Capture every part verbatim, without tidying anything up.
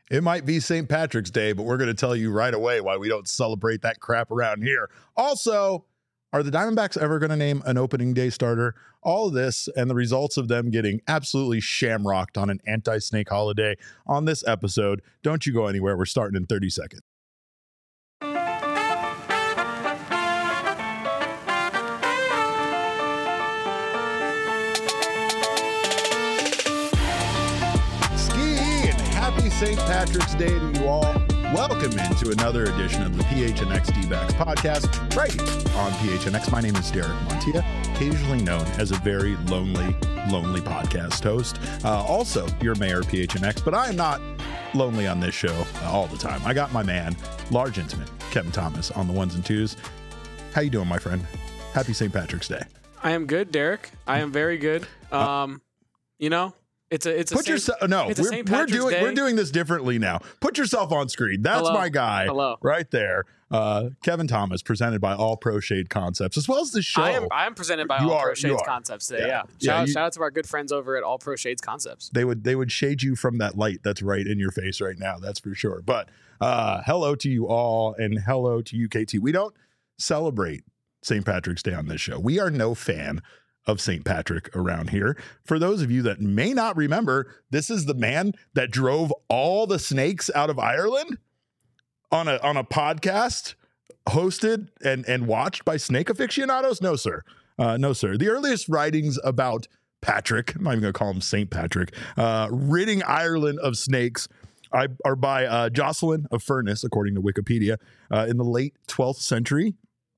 It might be Saint Patrick's Day, but we're going to tell you right away why we don't celebrate that crap around here. Also, are the Diamondbacks ever going to name an opening day starter? All of this and the results of them getting absolutely shamrocked on an anti-snake holiday on this episode. Don't you go anywhere. We're starting in thirty seconds. Saint Patrick's Day to you all. Welcome into another edition of the P H N X D-Backs podcast right here on P H N X. My name is Derek Montilla, occasionally known as a very lonely, lonely podcast host. Uh, also, your mayor, P H N X, but I am not lonely on this show uh, all the time. I got my man, large intimate, Kevin Thomas on the ones and twos. How you doing, my friend? Happy Saint Patrick's Day. I am good, Derek. I am very good. Um, uh, you know, It's a it's a put Saint, yourself no it's a we're, Saint we're Patrick's doing Day. we're doing this differently now. Put yourself on screen. That's Hello. my guy. Hello. Right there. Uh, Kevin Thomas, presented by All Pro Shade Concepts, as well as the show. I am I am presented by You All are- Pro you Shades are. Concepts today. Yeah. Yeah. Yeah, Shout, you- shout out to our good friends over at All Pro Shades Concepts. They would they would shade you from that light that's right in your face right now. That's for sure. But uh, hello to you all, and hello to you, K T. We don't celebrate Saint Patrick's Day on this show. We are no fan of Saint Patrick around here. For those of you that may not remember, this is the man that drove all the snakes out of Ireland on a on a podcast hosted and and watched by snake aficionados. No, sir. Uh, no, sir. The earliest writings about Patrick, I'm not even going to call him Saint Patrick, uh, ridding Ireland of snakes I, are by uh, Jocelyn of Furness, according to Wikipedia, uh, in the late twelfth century,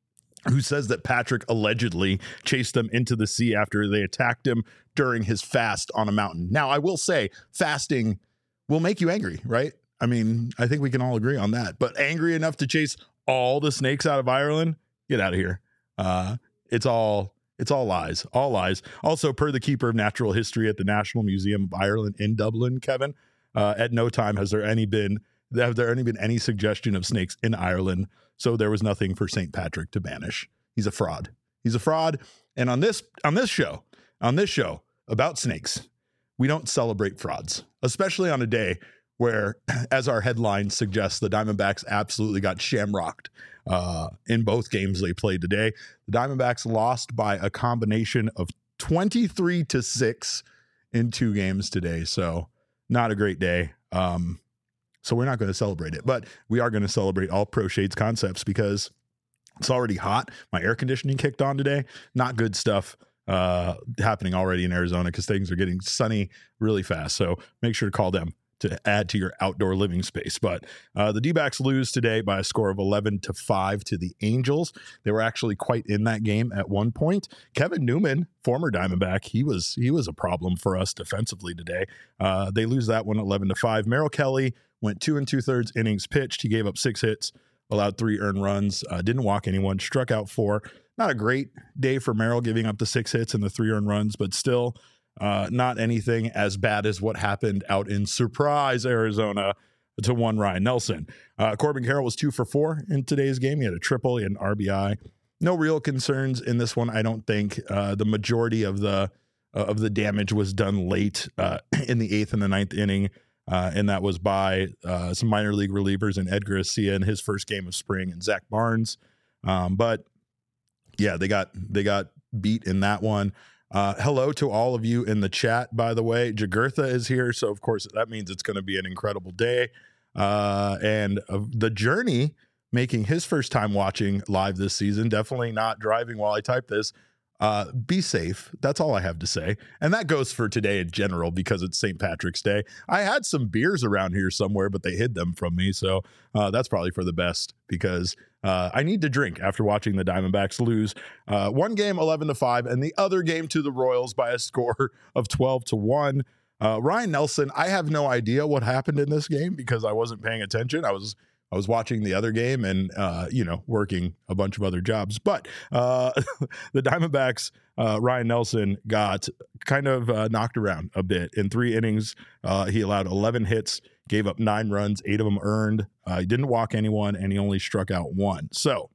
who says that Patrick allegedly chased them into the sea after they attacked him during his fast on a mountain. Now, I will say fasting will make you angry, right? I mean, I think we can all agree on that. But angry enough to chase all the snakes out of Ireland? Get out of here. Uh, it's all it's all lies, all lies. Also, per the keeper of natural history at the National Museum of Ireland in Dublin, Kevin, uh, at no time has there any been have there any been any suggestion of snakes in Ireland. So there was nothing for Saint Patrick to banish. He's a fraud. He's a fraud. And on this on this show, on this show about snakes, we don't celebrate frauds, especially on a day where, as our headline suggests, the Diamondbacks absolutely got shamrocked uh, in both games they played today. The Diamondbacks lost by a combination of twenty-three to six in two games today. So not a great day. Um, So we're not going to celebrate it, but we are going to celebrate All Pro Shades Concepts because it's already hot. My air conditioning kicked on today. Not good stuff uh, happening already in Arizona because things are getting sunny really fast. So make sure to call them to add to your outdoor living space. But uh, the D-backs lose today by a score of eleven to five to the Angels. They were actually quite in that game at one point. Kevin Newman, former Diamondback, he was he was a problem for us defensively today. Uh, they lose that one eleven to five. Merrill Kelly went two and two thirds innings pitched. He gave up six hits, allowed three earned runs, uh, didn't walk anyone, struck out four. Not a great day for Merrill, giving up the six hits and the three earned runs, but still uh, not anything as bad as what happened out in Surprise, Arizona, to one Ryan Nelson. Uh, Corbin Carroll was two for four in today's game. He had a triple, he had an R B I. No real concerns in this one, I don't think. Uh, the majority of the uh, of the damage was done late uh, in the eighth and the ninth inning. Uh, and that was by uh, some minor league relievers and Edgar Acia in his first game of spring and Zach Barnes. Um, but yeah, they got they got beat in that one. Uh, hello to all of you in the chat, by the way. Jagurtha is here, so of course that means it's going to be an incredible day. Uh, and uh, the Journey making his first time watching live this season, definitely not driving while I type this. Uh, be safe. That's all I have to say. And that goes for today in general because it's Saint Patrick's Day. I had some beers around here somewhere, but they hid them from me. So uh, that's probably for the best because uh, I need to drink after watching the Diamondbacks lose uh, one game eleven to five and the other game to the Royals by a score of twelve to one. Uh, Ryan Nelson, I have no idea what happened in this game because I wasn't paying attention. I was I was watching the other game and, uh, you know, working a bunch of other jobs. But uh, the Diamondbacks, uh, Ryan Nelson got kind of uh, knocked around a bit. In three innings, uh, he allowed eleven hits, gave up nine runs, eight of them earned. Uh, he didn't walk anyone, and he only struck out one. So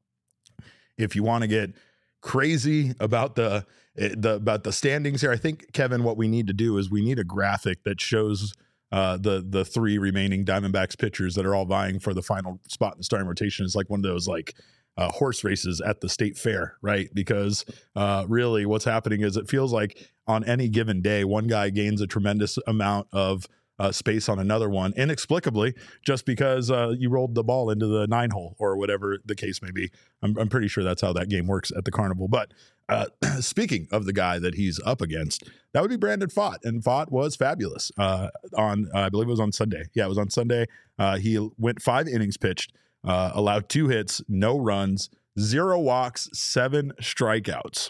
if you want to get crazy about the, the about the standings here, I think, Kevin, what we need to do is we need a graphic that shows uh, the the three remaining Diamondbacks pitchers that are all vying for the final spot in the starting rotation is like one of those like uh, horse races at the state fair, right? Because uh, really what's happening is it feels like on any given day, one guy gains a tremendous amount of uh, space on another one, inexplicably, just because uh, you rolled the ball into the nine hole or whatever the case may be. I'm, I'm pretty sure that's how that game works at the Carnival. But uh, speaking of the guy that he's up against, that would be Brandon Pfaadt, and Pfaadt was fabulous uh, on, uh, I believe it was on Sunday. Yeah, it was on Sunday. Uh, he went five innings pitched, uh, allowed two hits, no runs, zero walks, seven strikeouts.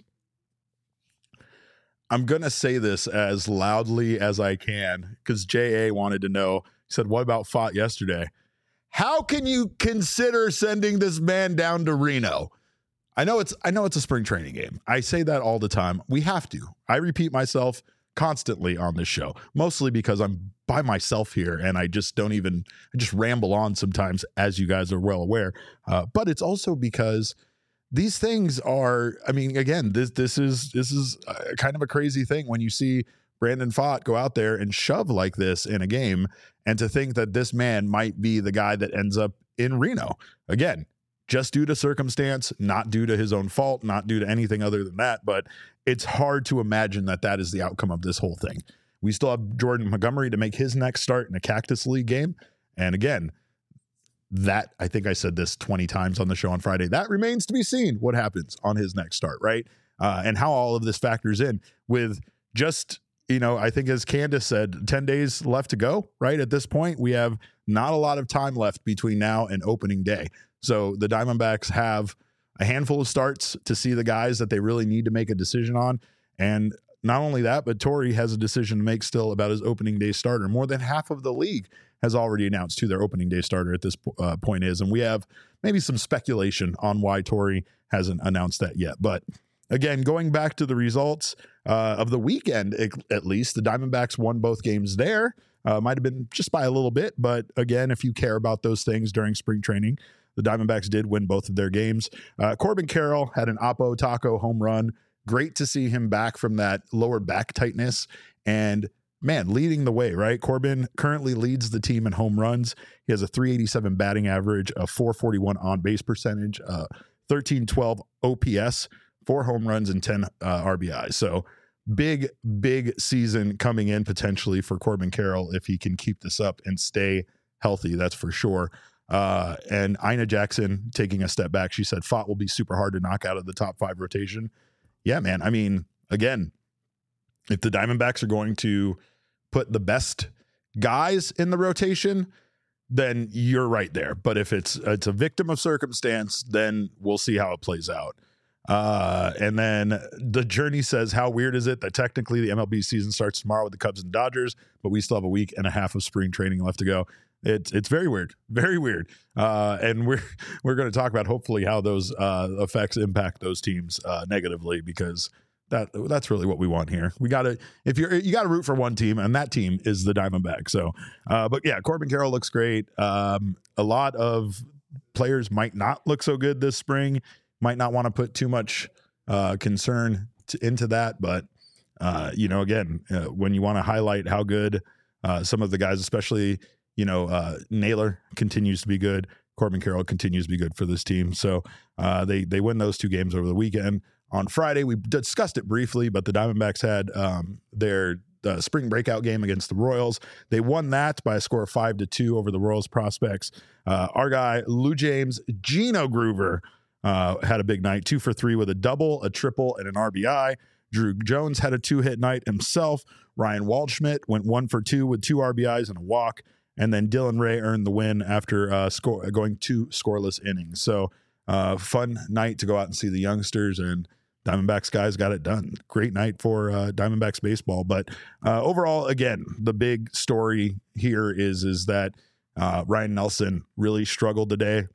I'm going to say this as loudly as I can because J A wanted to know. He said, what about Pfaadt yesterday? How can you consider sending this man down to Reno? I know it's I know it's a spring training game. I say that all the time. We have to. I repeat myself constantly on this show, mostly because I'm by myself here and I just don't even, I just ramble on sometimes, as you guys are well aware. Uh, but it's also because these things are, I mean, again, this this is this is a, kind of a crazy thing when you see Brandon Pfaadt go out there and shove like this in a game, and to think that this man might be the guy that ends up in Reno. Again, just due to circumstance, not due to his own fault, not due to anything other than that, but it's hard to imagine that that is the outcome of this whole thing. We still have Jordan Montgomery to make his next start in a Cactus League game, and again, that, I think I said this twenty times on the show on Friday, that remains to be seen what happens on his next start, right? Uh, and how all of this factors in with just, you know, I think as Candace said, ten days left to go, right? At this point, we have not a lot of time left between now and opening day. So the Diamondbacks have a handful of starts to see the guys that they really need to make a decision on. And not only that, but Torey has a decision to make still about his opening day starter. More than half of the league has already announced who their opening day starter at this uh, point is. And we have maybe some speculation on why Torey hasn't announced that yet. But again, going back to the results uh, of the weekend, at least, the Diamondbacks won both games there. Uh, might have been just by a little bit. But again, if you care about those things during spring training, the Diamondbacks did win both of their games. Uh, Corbin Carroll had an Oppo Taco home run. Great to see him back from that lower back tightness and, man, leading the way, right? Corbin currently leads the team in home runs. He has a three eighty-seven batting average, a four forty-one on-base percentage, uh, thirteen twelve O P S, four home runs, and ten uh, R B Is. So big, big season coming in potentially for Corbin Carroll if he can keep this up and stay healthy, that's for sure. Uh, and Ina Jackson taking a step back. She said Pfaadt will be super hard to knock out of the top five rotation. Yeah, man. I mean, again, if the Diamondbacks are going to put the best guys in the rotation, then you're right there. But if it's it's a victim of circumstance, then we'll see how it plays out. Uh, and then the Journey says, how weird is it that technically the M L B season starts tomorrow with the Cubs and Dodgers, but we still have a week and a half of spring training left to go? It's it's very weird, very weird. Uh, and we're we're going to talk about hopefully how those uh, effects impact those teams uh, negatively, because that that's really what we want here. We got to if you're you got to root for one team, and that team is the Diamondbacks. So, uh, but yeah, Corbin Carroll looks great. Um, a lot of players might not look so good this spring. Might not want to put too much uh, concern to, into that, but uh, you know, again, uh, when you want to highlight how good uh, some of the guys, especially. You know, uh, Naylor continues to be good. Corbin Carroll continues to be good for this team. So uh, they they win those two games over the weekend. On Friday, we discussed it briefly, but the Diamondbacks had um, their uh, spring breakout game against the Royals. They won that by a score of five to two over the Royals prospects. Uh, our guy Lou James, Gino Groover, uh, had a big night, two for three with a double, a triple, and an R B I. Drew Jones had a two-hit night himself. Ryan Waldschmidt went one for two with two R B Is and a walk. And then Dylan Ray earned the win after uh, score, going two scoreless innings. So uh, fun night to go out and see the youngsters, and Diamondbacks guys got it done. Great night for uh, Diamondbacks baseball. But uh, overall, again, the big story here is, is that uh, Ryan Nelson really struggled today.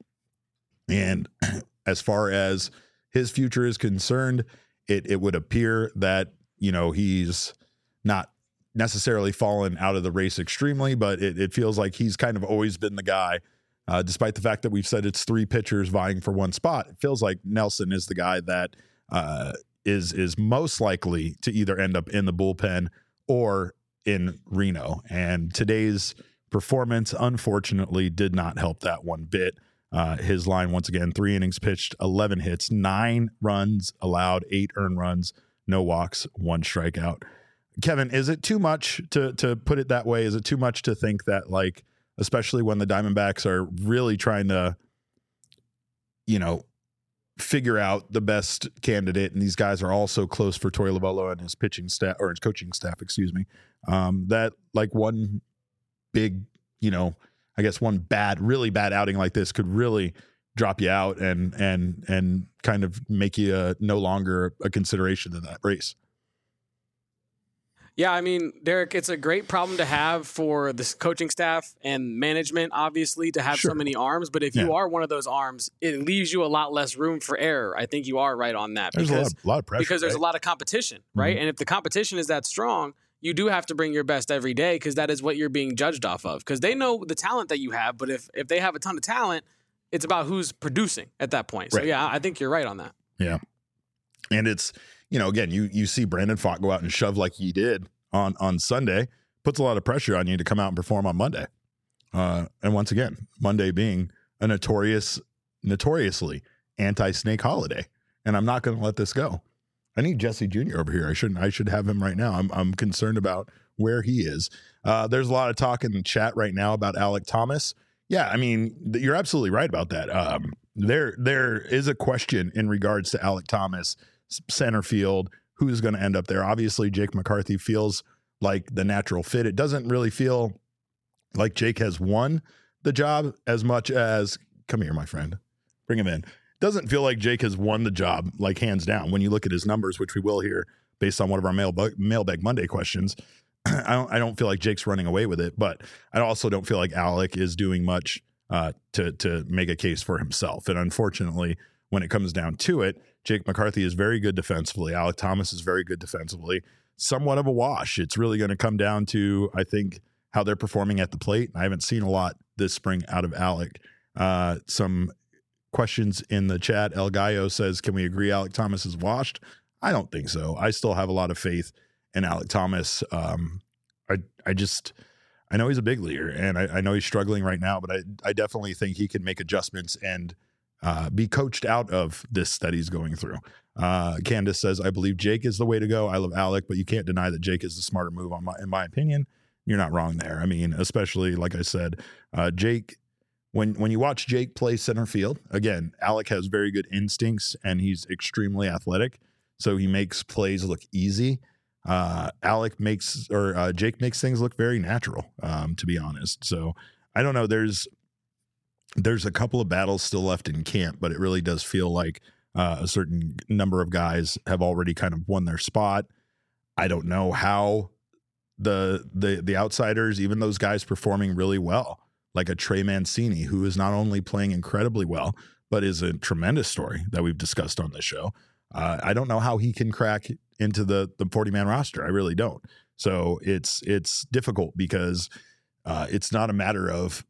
And as far as his future is concerned, it, it would appear that, you know, he's not necessarily fallen out of the race extremely, but it, it feels like he's kind of always been the guy, uh, despite the fact that we've said it's three pitchers vying for one spot. It feels like Nelson is the guy that uh, is is most likely to either end up in the bullpen or in Reno. And today's performance, unfortunately, did not help that one bit. Uh, his line, once again, three innings pitched, eleven hits, nine runs allowed, eight earned runs, no walks, one strikeout. Kevin, is it too much to to put it that way? Is it too much to think that, like, especially when the Diamondbacks are really trying to, you know, figure out the best candidate, and these guys are all so close for Torey Lovullo and his pitching staff, or his coaching staff, excuse me, um, that like one big, you know, I guess one bad, really bad outing like this could really drop you out and and and kind of make you uh, no longer a consideration in that race. Yeah, I mean, Derek, it's a great problem to have for the coaching staff and management, obviously, to have Sure. so many arms. But if Yeah. you are one of those arms, it leaves you a lot less room for error. I think you are right on that. There's because, a lot of, lot of pressure. because there's right? a lot of competition, right? Mhm. And if the competition is that strong, you do have to bring your best every day because that is what you're being judged off of. Because they know the talent that you have, but if if they have a ton of talent, it's about who's producing at that point. So, Right. yeah, I think you're right on that. Yeah. And it's, you know, again, you you see Brandon Pfaadt go out and shove like he did on on Sunday, puts a lot of pressure on you to come out and perform on Monday. Uh, and once again, Monday being a notorious, notoriously anti-snake holiday. And I'm not going to let this go. I need Jesse Junior over here. I shouldn't. I should have him right now. I'm I'm concerned about where he is. Uh, there's a lot of talk in the chat right now about Alek Thomas. Yeah, I mean, th- you're absolutely right about that. Um, there there is a question in regards to Alek Thomas, s- center field, who's going to end up there. Obviously, Jake McCarthy feels like the natural fit. It doesn't really feel like Jake has won the job as much as, come here, my friend, bring him in. Doesn't feel like Jake has won the job, like hands down. When you look at his numbers, which we will hear based on one of our mailbag, mailbag Monday questions, I don't I don't feel like Jake's running away with it, but I also don't feel like Alek is doing much uh, to to make a case for himself. And unfortunately, when it comes down to it, Jake McCarthy is very good defensively. Alek Thomas is very good defensively. Somewhat of a wash. It's really going to come down to, I think, how they're performing at the plate. I haven't seen a lot this spring out of Alek. Uh, some questions in the chat. El Gallo says, can we agree Alek Thomas is washed? I don't think so. I still have a lot of faith in Alek Thomas. Um, I I just, I know he's a big leaguer, and I, I know he's struggling right now, but I, I definitely think he can make adjustments and uh, be coached out of this that he's going through. Uh, Candace says, I believe Jake is the way to go. I love Alek, but you can't deny that Jake is the smarter move, on my, in my opinion. You're not wrong there. I mean, especially, like I said, uh, Jake, When when you watch Jake play center field, again, Alek has very good instincts and he's extremely athletic, so he makes plays look easy. Uh, Alek makes or uh, Jake makes things look very natural, um, to be honest. So I don't know. There's there's a couple of battles still left in camp, but it really does feel like uh, a certain number of guys have already kind of won their spot. I don't know how the the the outsiders, even those guys performing really well, like a Trey Mancini, who is not only playing incredibly well, but is a tremendous story that we've discussed on this show. Uh, I don't know how he can crack into the the forty-man roster. I really don't. So it's it's difficult because uh, it's not a matter of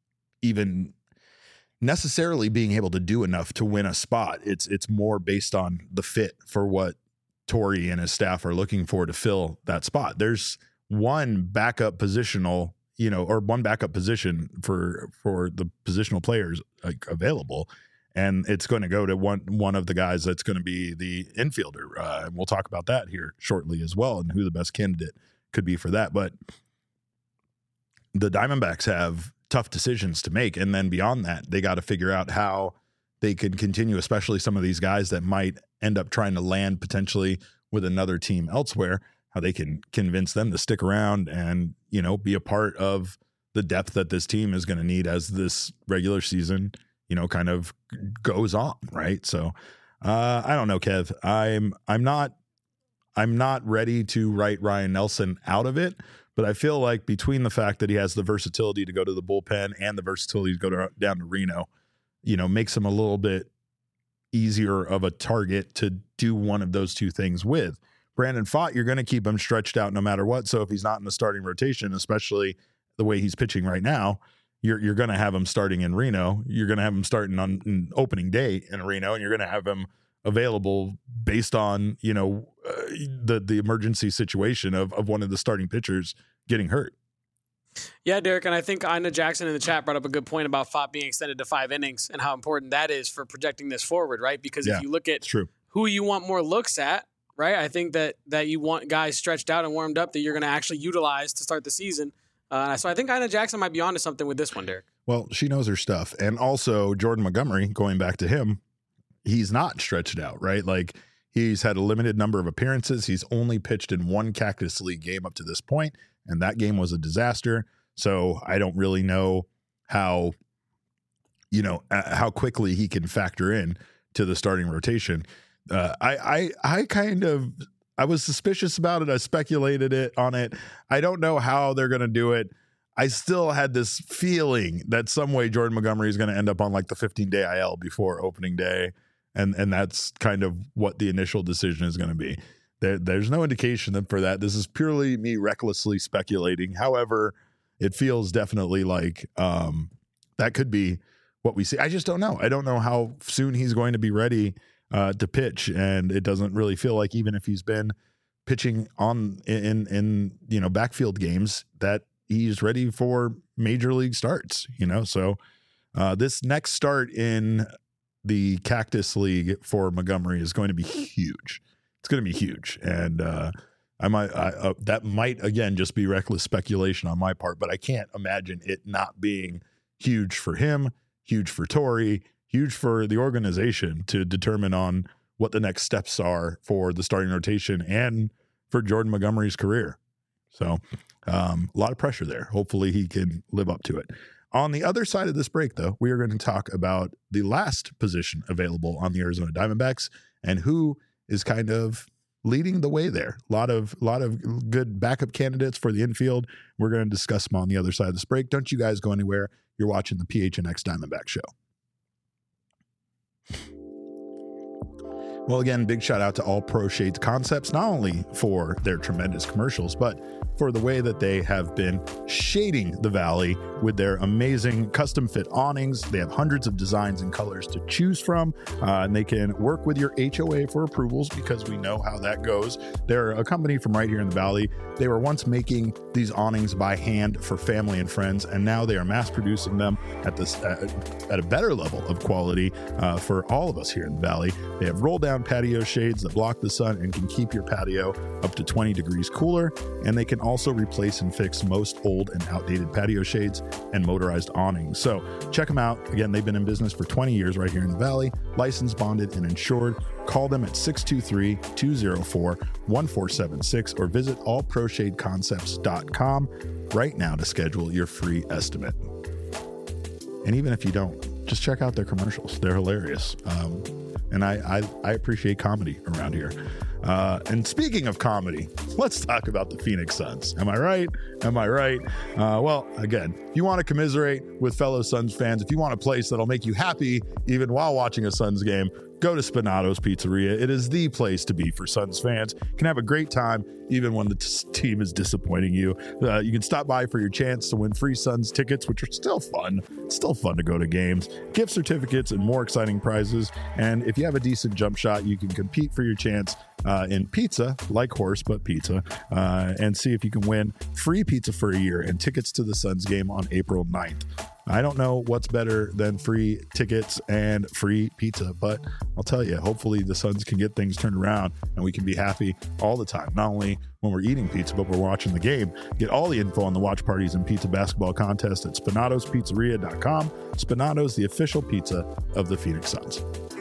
even necessarily being able to do enough to win a spot. It's it's more based on the fit for what Torey and his staff are looking for to fill that spot. There's one backup positional, you know, or one backup position for for the positional players like, available, and it's going to go to one one of the guys that's going to be the infielder, uh, and we'll talk about that here shortly as well, and who the best candidate could be for that. But the Diamondbacks have tough decisions to make, and then beyond that, they got to figure out how they can continue, especially some of these guys that might end up trying to land potentially with another team elsewhere, how they can convince them to stick around and, you know, be a part of the depth that this team is going to need as this regular season, you know, kind of goes on. Right. So uh, I don't know, Kev, I'm, I'm not, I'm not ready to write Ryan Nelson out of it, but I feel like between the fact that he has the versatility to go to the bullpen and the versatility to go to, down to Reno, you know, makes him a little bit easier of a target to do one of those two things with. Brandon Pfaadt, you're going to keep him stretched out no matter what. So if he's not in the starting rotation, especially the way he's pitching right now, you're you're going to have him starting in Reno. You're going to have him starting on, on opening day in Reno, and you're going to have him available based on, you know, uh, the the emergency situation of of one of the starting pitchers getting hurt. Yeah, Derek, and I think Ina Jackson in the chat brought up a good point about F O P being extended to five innings and how important that is for projecting this forward, right? Because Yeah, if you look at true. who you want more looks at, right, I think that that you want guys stretched out and warmed up that you're going to actually utilize to start the season. Uh, so I think Ina Jackson might be onto something with this one, Derek. Well, she knows her stuff. And also Jordan Montgomery, going back to him, he's not stretched out, right? Like he's had a limited number of appearances. He's only pitched in one Cactus League game up to this point, and that game was a disaster. So I don't really know how, you know, uh, how quickly he can factor in to the starting rotation. Uh, I, I, I kind of, I was suspicious about it. I speculated it on it. I don't know how they're going to do it. I still had this feeling that some way Jordan Montgomery is going to end up on like the fifteen day I L before opening day. And, and that's kind of what the initial decision is going to be. There, there's no indication for that. This is purely me recklessly speculating. However, it feels definitely like um, that could be what we see. I just don't know. I don't know how soon he's going to be ready uh, to pitch. And it doesn't really feel like, even if he's been pitching on in, in, you know, backfield games, that he's ready for major league starts, you know? So uh, this next start in the Cactus League for Montgomery is going to be huge. It's going to be huge. And uh, I might, I, uh, that might again, just be reckless speculation on my part, but I can't imagine it not being huge for him, huge for Torey, huge for the organization to determine on what the next steps are for the starting rotation and for Jordan Montgomery's career. So um, a lot of pressure there. Hopefully he can live up to it. On the other side of this break, though, we are going to talk about the last position available on the Arizona Diamondbacks and who is kind of leading the way there. A lot of, lot of good backup candidates for the infield. We're going to discuss them on the other side of this break. Don't you guys go anywhere. You're watching the P H N X Diamondback Show. Well, again, big shout out to All Pro Shades Concepts, not only for their tremendous commercials, but for the way that they have been shading the Valley with their amazing custom fit awnings. They have hundreds of designs and colors to choose from, uh, and they can work with your H O A for approvals because we know how that goes. They're a company from right here in the Valley. They were once making these awnings by hand for family and friends, and now they are mass producing them at this uh, at a better level of quality uh, for all of us here in the Valley. They have roll down patio shades that block the sun and can keep your patio up to twenty degrees cooler, and they can also replace and fix most old and outdated patio shades and motorized awnings. So check them out. Again, they've been in business for twenty years right here in the Valley, licensed, bonded, and insured. Call them at six two three, two oh four, one four seven six or visit all pro shade concepts dot com right now to schedule your free estimate. And even if you don't, just check out their commercials. They're hilarious. Um, and I, I, I appreciate comedy around here. Uh, and speaking of comedy, let's talk about the Phoenix Suns. Am I right? Am I right? Uh, well, again, if you want to commiserate with fellow Suns fans, if you want a place that'll make you happy even while watching a Suns game, go to Spinato's Pizzeria. It is the place to be for Suns fans. You can have a great time even when the t- team is disappointing you. Uh, you can stop by for your chance to win free Suns tickets, which are still fun. It's still fun to go to games, gift certificates, and more exciting prizes. And if you have a decent jump shot, you can compete for your chance uh, in pizza, like horse, but pizza, uh, and see if you can win free pizza for a year and tickets to the Suns game on April ninth. I don't know what's better than free tickets and free pizza, but I'll tell you, hopefully the Suns can get things turned around and we can be happy all the time. Not only when we're eating pizza, but we're watching the game. Get all the info on the watch parties and pizza basketball contest at spinatos pizzeria dot com. Spinatos, the official pizza of the Phoenix Suns.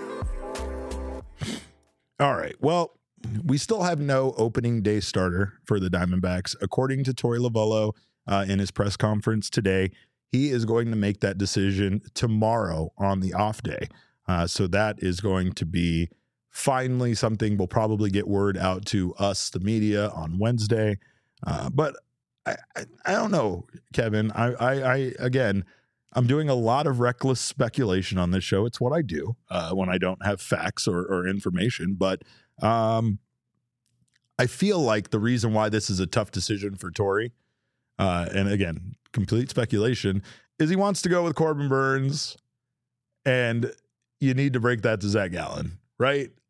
All right. Well, we still have no opening day starter for the Diamondbacks. According to Torey Lovullo uh, in his press conference today, he is going to make that decision tomorrow on the off day. Uh, so that is going to be finally something we'll probably get word out to us, the media, on Wednesday. Uh, but I, I, I don't know, Kevin. I, I, I, again, I'm doing a lot of reckless speculation on this show. It's what I do uh, when I don't have facts or, or information. But um, I feel like the reason why this is a tough decision for Torey, uh, and again, complete speculation, is he wants to go with Corbin Burnes, and you need to break that to Zach Gallen, right?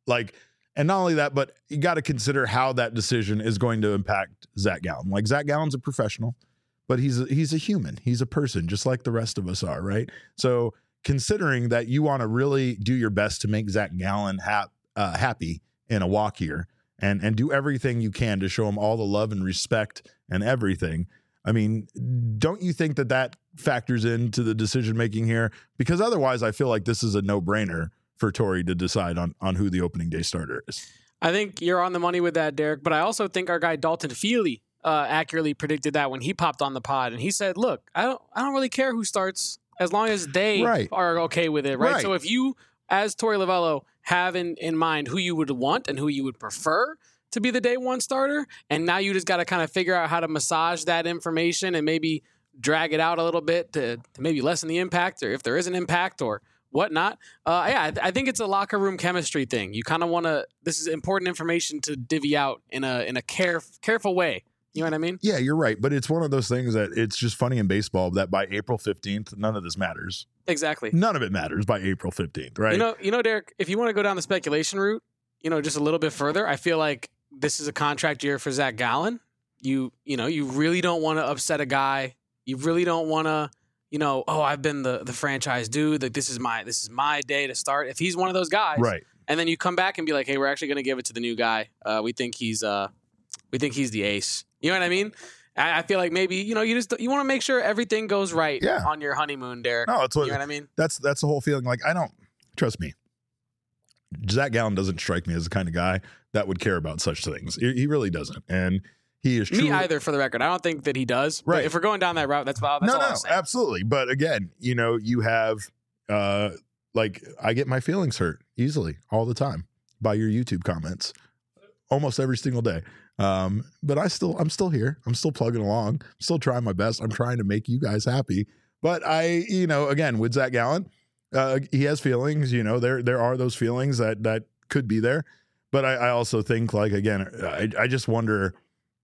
Like, and not only that, but you got to consider how that decision is going to impact Zach Gallen. Like, Zach Gallen's a professional, but he's a, he's a human. He's a person just like the rest of us are, right? So considering that you want to really do your best to make Zach Gallen hap, uh, happy in a walk here and, and do everything you can to show him all the love and respect and everything. I mean, don't you think that that factors into the decision-making here? Because otherwise I feel like this is a no-brainer for Torey to decide on, on who the opening day starter is. I think you're on the money with that, Derek, but I also think our guy Dalton Feely uh, accurately predicted that when he popped on the pod, and he said, look, I don't I don't really care who starts as long as they right. are okay with it, right? right? So if you, as Torey Lovullo, have in, in mind who you would want and who you would prefer to be the day one starter, and now you just got to kind of figure out how to massage that information and maybe drag it out a little bit to, to maybe lessen the impact, or if there is an impact or whatnot. Uh, yeah, I, I think it's a locker room chemistry thing. You kind of want to, this is important information to divvy out in a in a care, careful way. You know what I mean? Yeah, you're right. But it's one of those things that it's just funny in baseball that by April fifteenth, none of this matters. Exactly. None of it matters by April fifteenth, right? You know, you know, Derek, if you want to go down the speculation route, you know, just a little bit further, I feel like this is a contract year for Zach Gallen. You, you know, you really don't want to upset a guy. You really don't want to, you know, oh, I've been the the franchise dude. Like, this is my this is my day to start. If he's one of those guys, right? And then you come back and be like, hey, we're actually going to give it to the new guy. Uh, we think he's uh, we think he's the ace. You know what I mean? I, I feel like maybe, you know, you just you want to make sure everything goes right yeah. on your honeymoon, Derek. No, it's what, you know what I mean? That's that's the whole feeling. Like, I don't trust me. Zach Gallen doesn't strike me as the kind of guy that would care about such things. He, he really doesn't, and he is truly, me either. For the record, I don't think that he does. Right. But if we're going down that route, that's, that's no, all no, I'm saying. Absolutely. But again, you know, you have uh, like I get my feelings hurt easily all the time by your YouTube comments, almost every single day. Um, but I still, I'm still here. I'm still plugging along. I'm still trying my best. I'm trying to make you guys happy. But I, you know, again, with Zach Gallen, uh, he has feelings. You know, there there are those feelings that that could be there. But I, I also think, like, again, I, I just wonder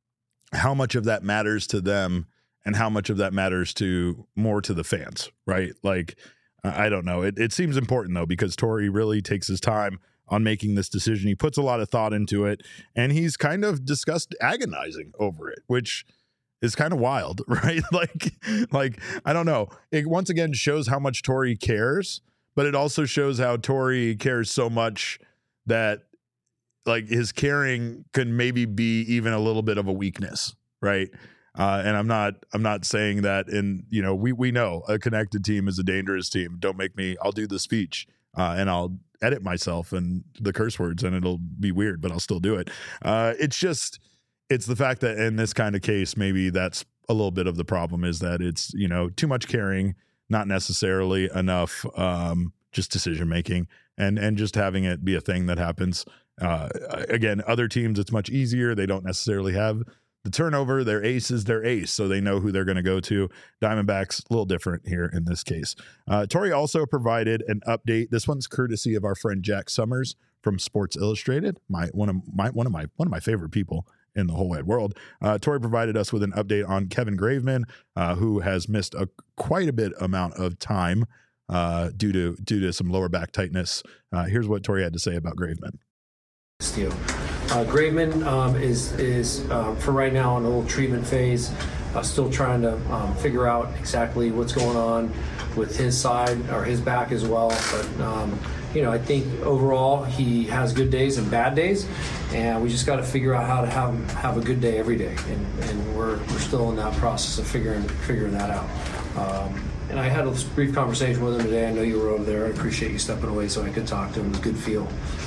how much of that matters to them and how much of that matters to more to the fans, right? Like, I don't know. It, it seems important, though, because Torey really takes his time on making this decision. He puts a lot of thought into it, and he's kind of discussed agonizing over it, which is kind of wild, right? Like, like I don't know. It once again shows how much Torey cares, but it also shows how Torey cares so much that, like, his caring can maybe be even a little bit of a weakness, right? Uh, and I'm not, I'm not saying that. And you know, we we know a connected team is a dangerous team. Don't make me. I'll do the speech uh, and I'll edit myself and the curse words, and it'll be weird, but I'll still do it. Uh, it's just, it's the fact that in this kind of case, maybe that's a little bit of the problem, is that it's, you know, too much caring, not necessarily enough um, just decision making, and and just having it be a thing that happens. Uh, again, other teams, it's much easier. They don't necessarily have the turnover. Their ace is their ace, so they know who they're going to go to. Diamondbacks, a little different here in this case. Uh, Torey also provided an update. This one's courtesy of our friend Jack Summers from Sports Illustrated, my one of my one of my one of my favorite people in the whole wide world. Uh, Torey provided us with an update on Kevin Graveman, uh, who has missed a quite a bit amount of time uh, due to due to some lower back tightness. Uh, here's what Torey had to say about Graveman. Steele. Uh, Graveman um, is, is uh, for right now, in a little treatment phase, uh, still trying to um, figure out exactly what's going on with his side or his back as well. But, um, you know, I think overall he has good days and bad days, and we just got to figure out how to have have a good day every day. And, and we're, we're still in that process of figuring figuring that out. Um, And I had a brief conversation with him today. I know you were over there. I appreciate you stepping away so I could talk to him. It was a good feel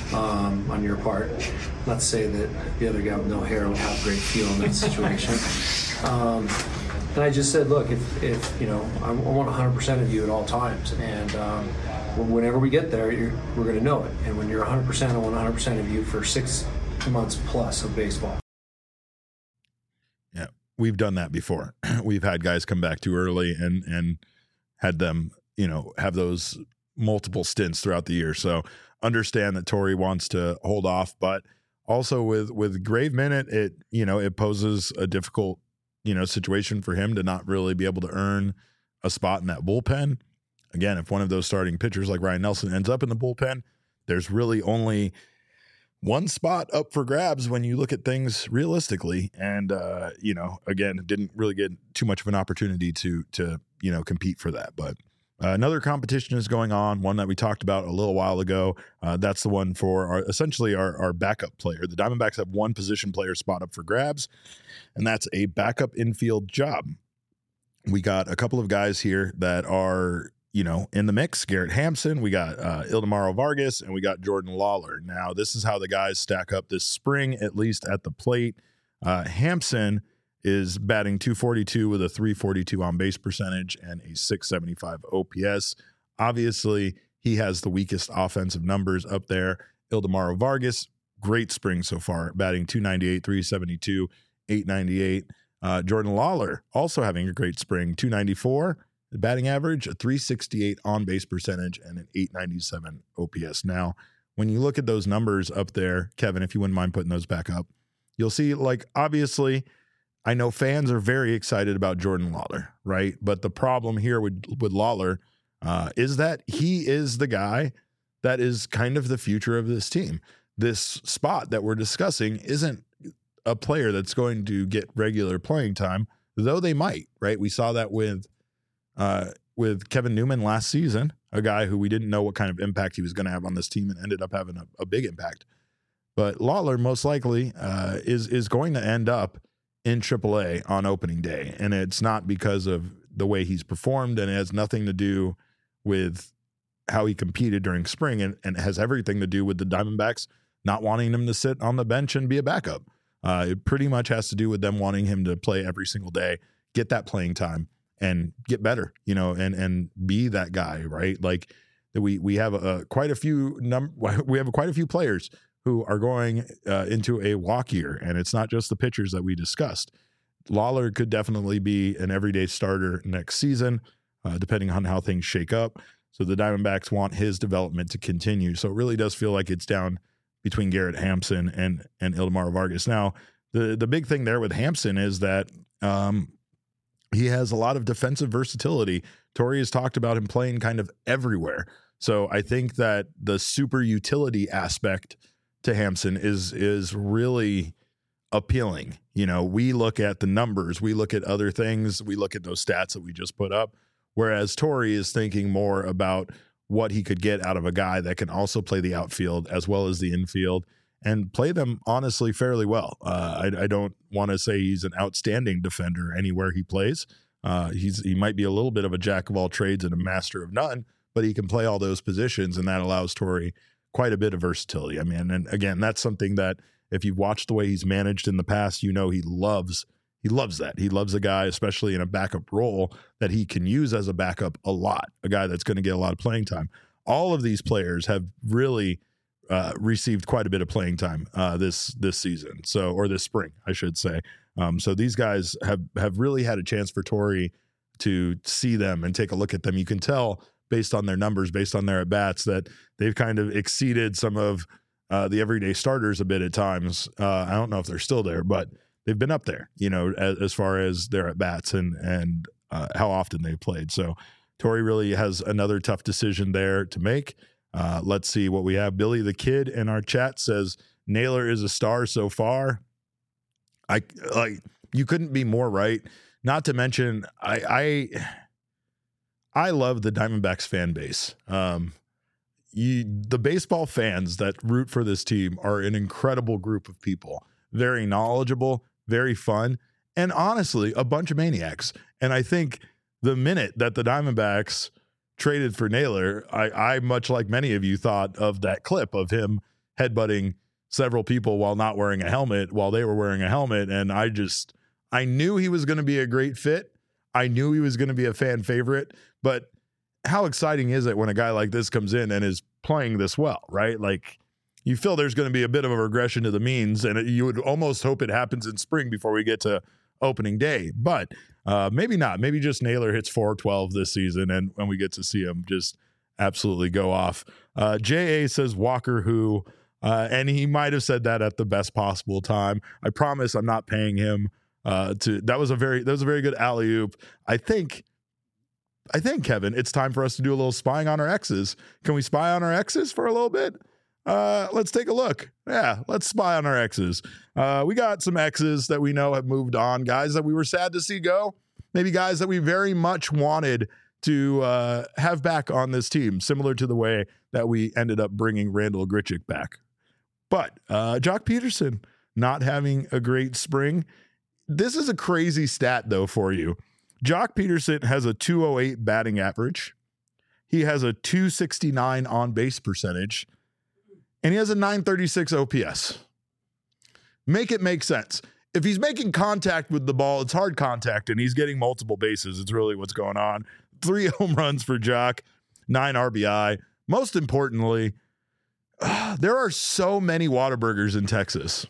um, on your part. Not to say that the other guy with no hair would have a great feel in that situation. um, and I just said, look, if, if you know, I, I want one hundred percent of you at all times. And um, whenever we get there, you're, we're going to know it. And when you're one hundred percent, I want one hundred percent of you for six months plus of baseball. Yeah, we've done that before. We've had guys come back too early and and had them, you know, have those multiple stints throughout the year. So understand that Torey wants to hold off, but also with with Graveman, it, it you know, it poses a difficult, you know, situation for him to not really be able to earn a spot in that bullpen. Again, if one of those starting pitchers like Ryan Nelson ends up in the bullpen, there's really only one spot up for grabs when you look at things realistically. And, uh, you know, again, didn't really get too much of an opportunity to, to, you know, compete for that. But uh, another competition is going on, one that we talked about a little while ago. Uh, that's the one for our, essentially our, our backup player. The Diamondbacks have one position player spot up for grabs, and that's a backup infield job. We got a couple of guys here that are, you know, in the mix. Garrett Hampson, we got uh, Ildemaro Vargas, and we got Jordan Lawler. Now, this is how the guys stack up this spring, at least at the plate. Uh, Hampson is batting two forty-two with a three forty-two on base percentage and a six seventy-five O P S. Obviously, he has the weakest offensive numbers up there. Ildemaro Vargas, great spring so far, batting two ninety-eight, three seventy-two, eight ninety-eight. Uh, Jordan Lawler also having a great spring, two ninety-four batting average, a three sixty-eight on base percentage, and an eight ninety-seven O P S. Now, when you look at those numbers up there, Kevin, if you wouldn't mind putting those back up, you'll see, like, obviously, I know fans are very excited about Jordan Lawler, right? But the problem here with, with Lawler uh, is that he is the guy that is kind of the future of this team. This spot that we're discussing isn't a player that's going to get regular playing time, though they might, right? We saw that with uh, with Kevin Newman last season, a guy who we didn't know what kind of impact he was going to have on this team and ended up having a, a big impact. But Lawler most likely uh, is is going to end up in triple A on opening day, and it's not because of the way he's performed, and it has nothing to do with how he competed during spring, and, and it has everything to do with the Diamondbacks not wanting him to sit on the bench and be a backup. Uh, it pretty much has to do with them wanting him to play every single day, get that playing time, and get better, you know, and and be that guy, right? Like we we have a, quite a few num we have quite a few players who are going uh, into a walk year, and it's not just the pitchers that we discussed. Lawler could definitely be an everyday starter next season, uh, depending on how things shake up. So the Diamondbacks want his development to continue. So it really does feel like it's down between Garrett Hampson and and Ildemaro Vargas. Now, the the big thing there with Hampson is that um, he has a lot of defensive versatility. Torey has talked about him playing kind of everywhere. So I think that the super utility aspect to Hampson is is really appealing. You know, we look at the numbers, we look at other things, we look at those stats that we just put up, whereas Torey is thinking more about what he could get out of a guy that can also play the outfield as well as the infield and play them honestly fairly well. Uh, I, I don't want to say he's an outstanding defender anywhere he plays. Uh, he's he might be a little bit of a jack of all trades and a master of none, but he can play all those positions, and that allows Torey quite a bit of versatility. I mean, and again, that's something that if you've watched the way he's managed in the past, you know he loves He loves that. He loves a guy, especially in a backup role, that he can use as a backup a lot, a guy that's going to get a lot of playing time. All of these players have really uh, received quite a bit of playing time uh, this this season, so or this spring, I should say. Um, so these guys have have really had a chance for Torey to see them and take a look at them. You can tell based on their numbers, based on their at-bats, that they've kind of exceeded some of uh, the everyday starters a bit at times. Uh, I don't know if they're still there, but they've been up there, you know, as, as far as their at-bats and, and uh, how often they've played. So Torey really has another tough decision there to make. Uh, let's see what we have. Billy the Kid in our chat says, Naylor is a star so far. I like you couldn't be more right. Not to mention, I I, I love the Diamondbacks fan base. Um, you, the baseball fans that root for this team are an incredible group of people. Very knowledgeable, very fun, and honestly, a bunch of maniacs. And I think the minute that the Diamondbacks traded for Naylor, I, I much like many of you, thought of that clip of him headbutting several people while not wearing a helmet while they were wearing a helmet. And I just, I knew he was going to be a great fit. I knew he was going to be a fan favorite. But how exciting is it when a guy like this comes in and is playing this well, right? Like, you feel there's going to be a bit of a regression to the means, and you would almost hope it happens in spring before we get to opening day. But uh, maybe not. Maybe just Naylor hits four twelve this season, and when we get to see him just absolutely go off. Uh, J A says Walker who, uh, and he might have said that at the best possible time. I promise I'm not paying him uh, to. That was a very that was a very good alley-oop. I think. I think Kevin, it's time for us to do a little spying on our exes. Can we spy on our exes for a little bit? Uh, let's take a look. Yeah, let's spy on our exes. Uh, we got some exes that we know have moved on, guys that we were sad to see go, maybe guys that we very much wanted to uh, have back on this team, similar to the way that we ended up bringing Randall Grichuk back. But uh, Jock Peterson not having a great spring. This is a crazy stat, though, for you. Jock Peterson has a two oh eight batting average. He has a two sixty-nine on-base percentage. And he has a nine thirty-six O P S. Make it make sense. If he's making contact with the ball, it's hard contact, and he's getting multiple bases. It's really what's going on. Three home runs for Jock, nine R B I. Most importantly, uh, there are so many Whataburgers in Texas.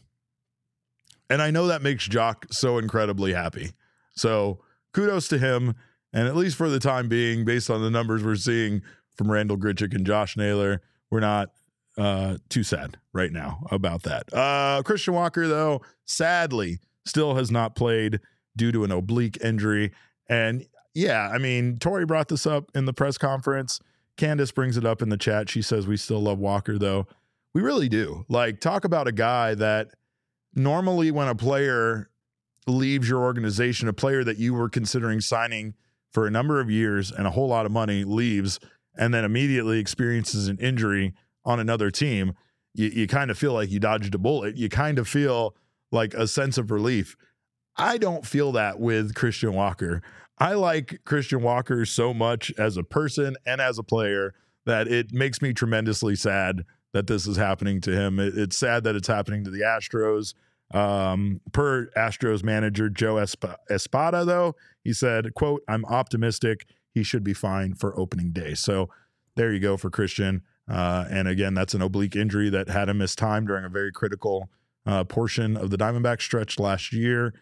And I know that makes Jock so incredibly happy. So kudos to him. And at least for the time being, based on the numbers we're seeing from Randall Grichuk and Josh Naylor, we're not uh, too sad right now about that. Uh, Christian Walker, though, sadly, still has not played due to an oblique injury. And yeah, I mean, Tori brought this up in the press conference. Candace brings it up in the chat. She says, we still love Walker, though. We really do. Like, talk about a guy that normally when a player leaves your organization, a player that you were considering signing for a number of years and a whole lot of money leaves and then immediately experiences an injury on another team, you, you kind of feel like you dodged a bullet. You kind of feel like a sense of relief. I don't feel that with Christian Walker. I like Christian Walker so much as a person and as a player that it makes me tremendously sad that this is happening to him. It, it's sad that it's happening to the Astros. Um, per Astros manager Joe Esp- Espada, though, he said, quote, I'm optimistic he should be fine for opening day. So there you go for Christian. Uh, and again, that's an oblique injury that had him miss time during a very critical uh, portion of the Diamondback stretch last year.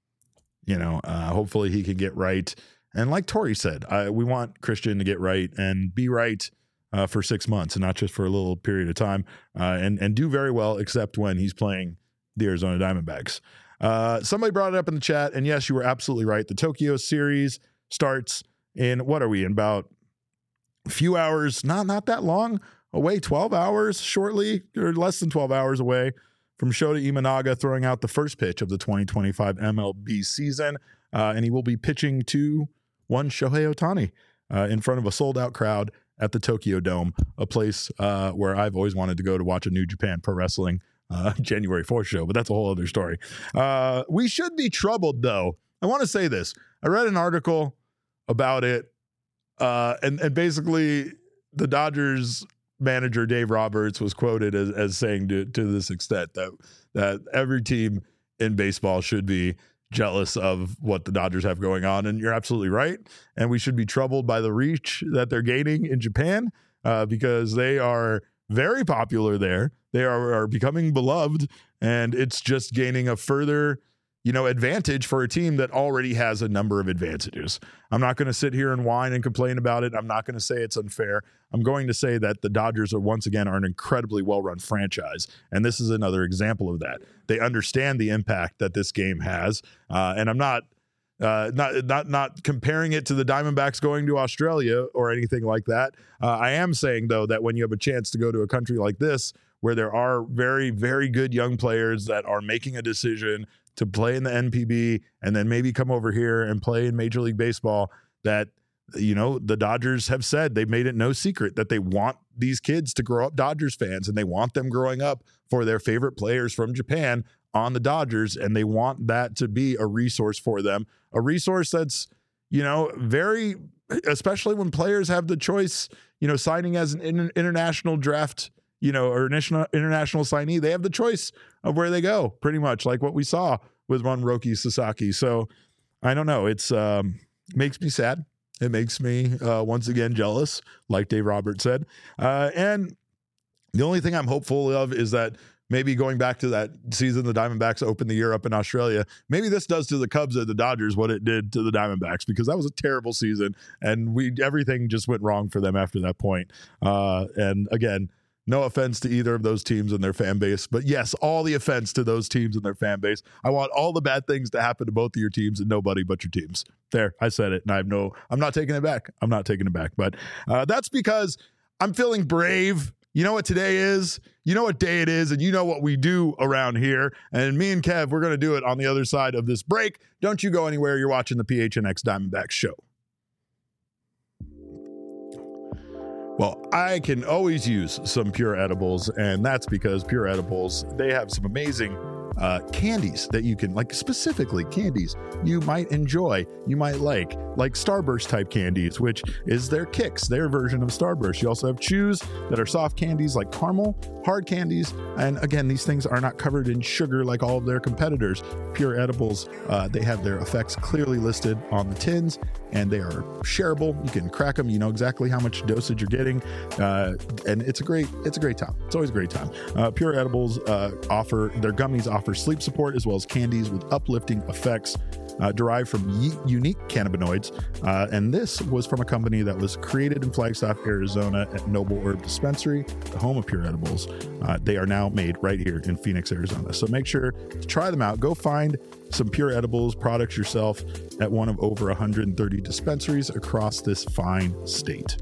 You know, uh, hopefully he can get right. And like Tori said, I, we want Christian to get right and be right uh, for six months and not just for a little period of time uh, and, and do very well, except when he's playing the Arizona Diamondbacks. Uh, somebody brought it up in the chat, and yes, you were absolutely right. The Tokyo series starts in, what are we, in about a few hours, not not that long away, twelve hours shortly, or less than twelve hours away from Shota Imanaga throwing out the first pitch of the twenty twenty-five M L B season, uh, and he will be pitching to one Shohei Ohtani uh, in front of a sold-out crowd at the Tokyo Dome, a place uh, where I've always wanted to go to watch a New Japan Pro Wrestling Uh, January fourth show, but that's a whole other story. Uh, we should be troubled, though. I want to say this. I read an article about it, uh, and, and basically the Dodgers manager, Dave Roberts, was quoted as, as saying to, to this extent that, that every team in baseball should be jealous of what the Dodgers have going on. And you're absolutely right. And we should be troubled by the reach that they're gaining in Japan uh, because they are very popular there. They are, are becoming beloved, and it's just gaining a further, you know, advantage for a team that already has a number of advantages. I'm not going to sit here and whine and complain about it. I'm not going to say it's unfair. I'm going to say that the Dodgers are once again are an incredibly well-run franchise, and this is another example of that. They understand the impact that this game has, uh, and I'm not Uh, not not not comparing it to the Diamondbacks going to Australia or anything like that. Uh, I am saying, though, that when you have a chance to go to a country like this, where there are very, very good young players that are making a decision to play in the N P B and then maybe come over here and play in Major League Baseball, that, you know, the Dodgers have said, they've made it no secret that they want these kids to grow up Dodgers fans, and they want them growing up for their favorite players from Japan on the Dodgers, and they want that to be a resource for them, a resource that's, you know, very, especially when players have the choice, you know, signing as an in, international draft, you know, or international international signee, they have the choice of where they go, pretty much like what we saw with Runroki Sasaki. So I don't know. It's um, makes me sad. It makes me uh, once again jealous, like Dave Roberts said. Uh, and the only thing I'm hopeful of is that maybe going back to that season the Diamondbacks opened the year up in Australia, maybe this does to the Cubs and the Dodgers what it did to the Diamondbacks, because that was a terrible season, and we everything just went wrong for them after that point. Uh, and again, no offense to either of those teams and their fan base, but yes, all the offense to those teams and their fan base. I want all the bad things to happen to both of your teams and nobody but your teams. There, I said it, and I have no, I'm not taking it back. I'm not taking it back, but uh, that's because I'm feeling brave You know what today is? You know what day it is, and you know what we do around here. And me and Kev, we're going to do it on the other side of this break. Don't you go anywhere. You're watching the P H N X Diamondbacks show. Well, I can always use some Pure Edibles, and that's because Pure Edibles, they have some amazing uh, candies that you can, like specifically candies you might enjoy, you might like, like Starburst type candies, which is their Kicks, their version of Starburst. You also have Chews that are soft candies like caramel, hard candies, and again, these things are not covered in sugar like all of their competitors. Pure Edibles, uh, they have their effects clearly listed on the tins, and they are shareable. You can crack them. You know exactly how much dosage you're getting, uh, and it's a great, it's a great time. It's always a great time. Uh, Pure Edibles uh, offer their gummies offer sleep support as well as candies with uplifting effects uh, derived from y- unique cannabinoids. Uh, and this was from a company that was created in Flagstaff, Arizona, at Noble Herb Dispensary, the home of Pure Edibles. Uh, they are now made right here in Phoenix, Arizona. So make sure to try them out. Go find some Pure Edibles products yourself at one of over one hundred thirty dispensaries across this fine state.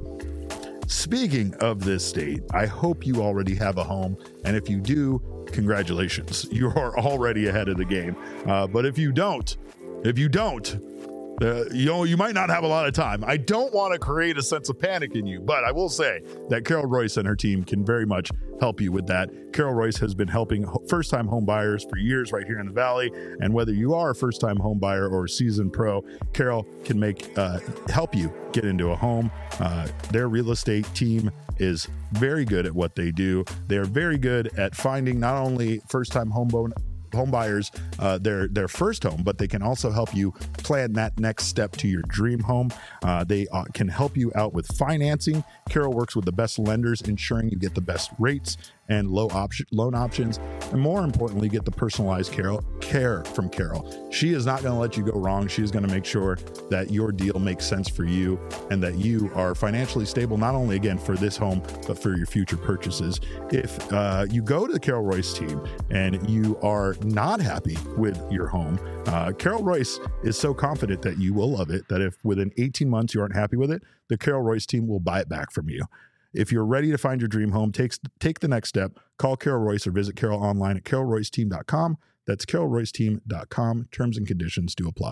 Speaking of this state, I hope you already have a home, and if you do, congratulations. You are already ahead of the game. Uh, but if you don't, if you don't, Uh, you know, you might not have a lot of time. I don't want to create a sense of panic in you, but I will say that Carol Royce and her team can very much help you with that. Carol Royce has been helping first-time home buyers for years right here in the Valley, and whether you are a first-time home buyer or a seasoned pro, Carol can make uh, help you get into a home. Uh, their real estate team is very good at what they do. They're very good at finding not only first-time home bone home buyers uh, their their first home, but they can also help you plan that next step to your dream home. Uh, they uh, can help you out with financing. Carol works with the best lenders, ensuring you get the best rates and low option loan options, and more importantly, get the personalized Carol care from Carol. She is not going to let you go wrong. She's going to make sure that your deal makes sense for you and that you are financially stable, not only again for this home, but for your future purchases. If uh, you go to the Carol Royce team and you are not happy with your home, uh, Carol Royce is so confident that you will love it that if within eighteen months you aren't happy with it, the Carol Royce team will buy it back from you. If you're ready to find your dream home, take, take the next step. Call Carol Royce or visit Carol online at carol royce team dot com. That's carol royce team dot com. Terms and conditions do apply.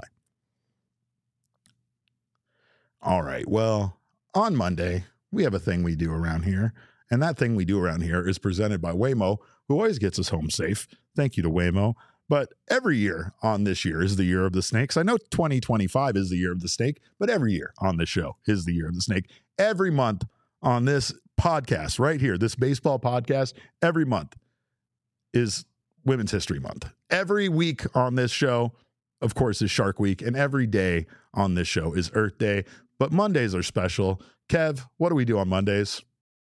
All right. Well, on Monday, we have a thing we do around here. And that thing we do around here is presented by Waymo, who always gets us home safe. Thank you to Waymo. But every year on this year is the year of the snakes. I know twenty twenty-five is the year of the snake, but every year on this show is the year of the snake. Every month on this podcast right here, this baseball podcast, every month is Women's History Month. Every week on this show, of course, is Shark Week, and every day on this show is Earth Day. But Mondays are special. Kev, what do we do on Mondays?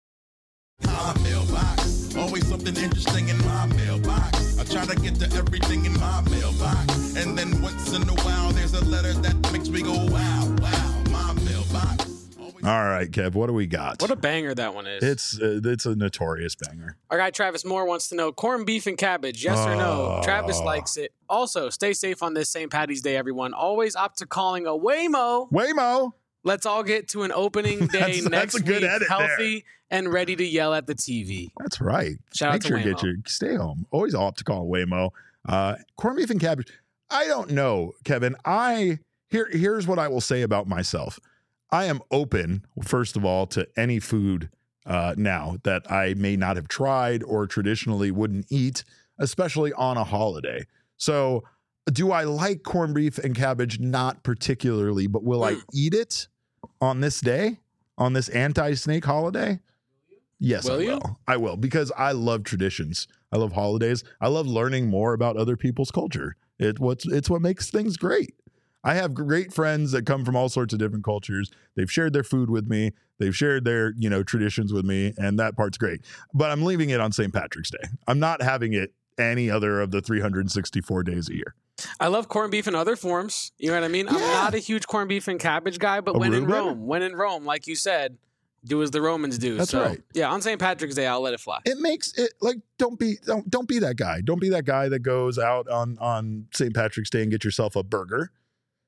My mailbox, always something interesting in my mailbox. I try to get to everything in my mailbox, and then once in a while there's a letter that makes me go wow, wow. My mailbox. All right, Kev, what do we got? What a banger that one is. It's uh, it's a notorious banger. Our guy Travis Moore wants to know corned beef and cabbage, yes or no? Oh. Travis likes it. Also, stay safe on this Saint Patty's Day, everyone. Always opt to calling a Waymo. Waymo. Let's all get to an opening day That's- that's next a good week, edit healthy and ready to yell at the T V. That's right. Shout out Make to sure you Waymo. get your stay home. Always opt to call Waymo. Uh, corned beef and cabbage. I don't know, Kevin. I here here's what I will say about myself. I am open, first of all, to any food uh, now that I may not have tried or traditionally wouldn't eat, especially on a holiday. So, do I like corned beef and cabbage? Not particularly, but will I eat it on this day, on this anti-snake holiday? Yes, Will I you? will. I will, because I love traditions. I love holidays. I love learning more about other people's culture. It what's it's what makes things great. I have great friends that come from all sorts of different cultures. They've shared their food with me. They've shared their, you know, traditions with me, and that part's great. But I'm leaving it on Saint Patrick's Day. I'm not having it any other of the three hundred sixty-four days a year. I love corned beef in other forms. You know what I mean? I'm Yeah. not a huge corned beef and cabbage guy, but when in Aruba? Rome, when in Rome, like you said, do as the Romans do. That's so, right. Yeah, on Saint Patrick's Day, I'll let it fly. It makes it like don't be don't don't be that guy. Don't be that guy that goes out on on Saint Patrick's Day and get yourself a burger.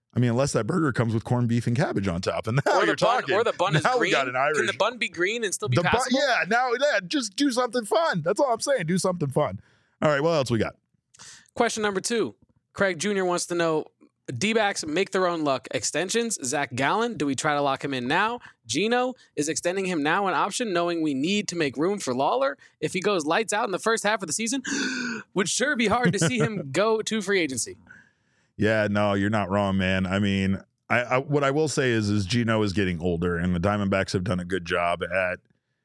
I mean, unless that burger comes with corned beef and cabbage on top, and now or you're the bun, talking. or the bun is now green. we got an Irish. Can the bun be green and still be the bun, passable? yeah. Now, yeah, just do something fun. That's all I'm saying. Do something fun. All right. What else we got? Question number two. Craig Junior wants to know, D-backs make their own luck. Extensions, Zach Gallen, do we try to lock him in now? Gino, is extending him now an option, knowing we need to make room for Lawler? If he goes lights out in the first half of the season, would sure be hard to see him go to free agency. Yeah, no, you're not wrong, man. I mean, I, I what I will say is, is Gino is getting older, and the Diamondbacks have done a good job at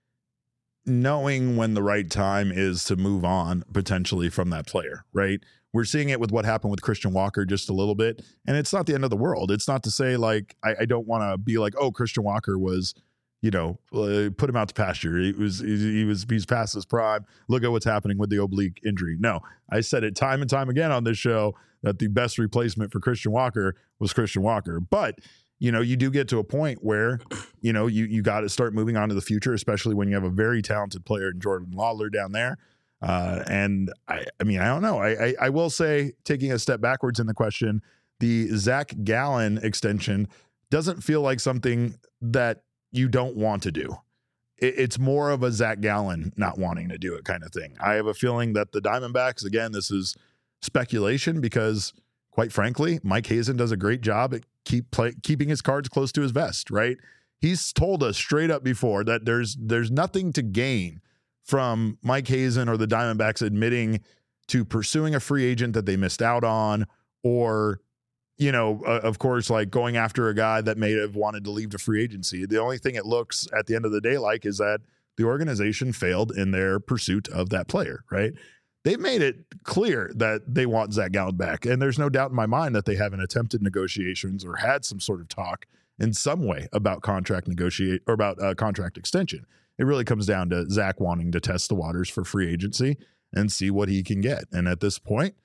knowing when the right time is to move on potentially from that player, right? We're seeing it with what happened with Christian Walker just a little bit, and it's not the end of the world. It's not to say like I, I don't want to be like, oh, Christian Walker was, you know, uh, put him out to pasture. He was he, he was he's past his prime. Look at what's happening with the oblique injury. No, I said it time and time again on this show that the best replacement for Christian Walker was Christian Walker. But you know, you do get to a point where, you know, you you got to start moving on to the future, especially when you have a very talented player in Jordan Lawler down there. Uh, and I, I mean, I don't know. I, I, I will say, taking a step backwards in the question, the Zach Gallen extension doesn't feel like something that you don't want to do. It, it's more of a Zach Gallen not wanting to do it kind of thing. I have a feeling that the Diamondbacks, again, this is speculation because, quite frankly, Mike Hazen does a great job at keep play, keeping his cards close to his vest, right? He's told us straight up before that there's there's nothing to gain from Mike Hazen or the Diamondbacks admitting to pursuing a free agent that they missed out on, or, you know, uh, of course, like going after a guy that may have wanted to leave to free agency. The only thing it looks at the end of the day like is that the organization failed in their pursuit of that player, right? They've made it clear that they want Zach Gallen back, and there's no doubt in my mind that they haven't attempted negotiations or had some sort of talk in some way about contract negotiate or about uh, contract extension. It really comes down to Zach wanting to test the waters for free agency and see what he can get. And at this point,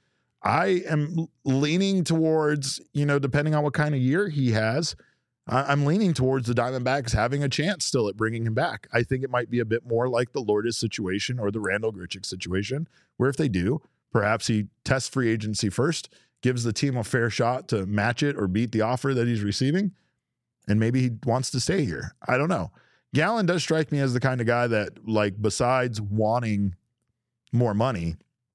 I am leaning towards, you know, depending on what kind of year he has, I'm leaning towards the Diamondbacks having a chance still at bringing him back. I think it might be a bit more like the Lourdes situation or the Randall Grichuk situation, where if they do, perhaps he tests free agency first, gives the team a fair shot to match it or beat the offer that he's receiving, and maybe he wants to stay here. I don't know. Gallen does strike me as the kind of guy that, like, besides wanting more money,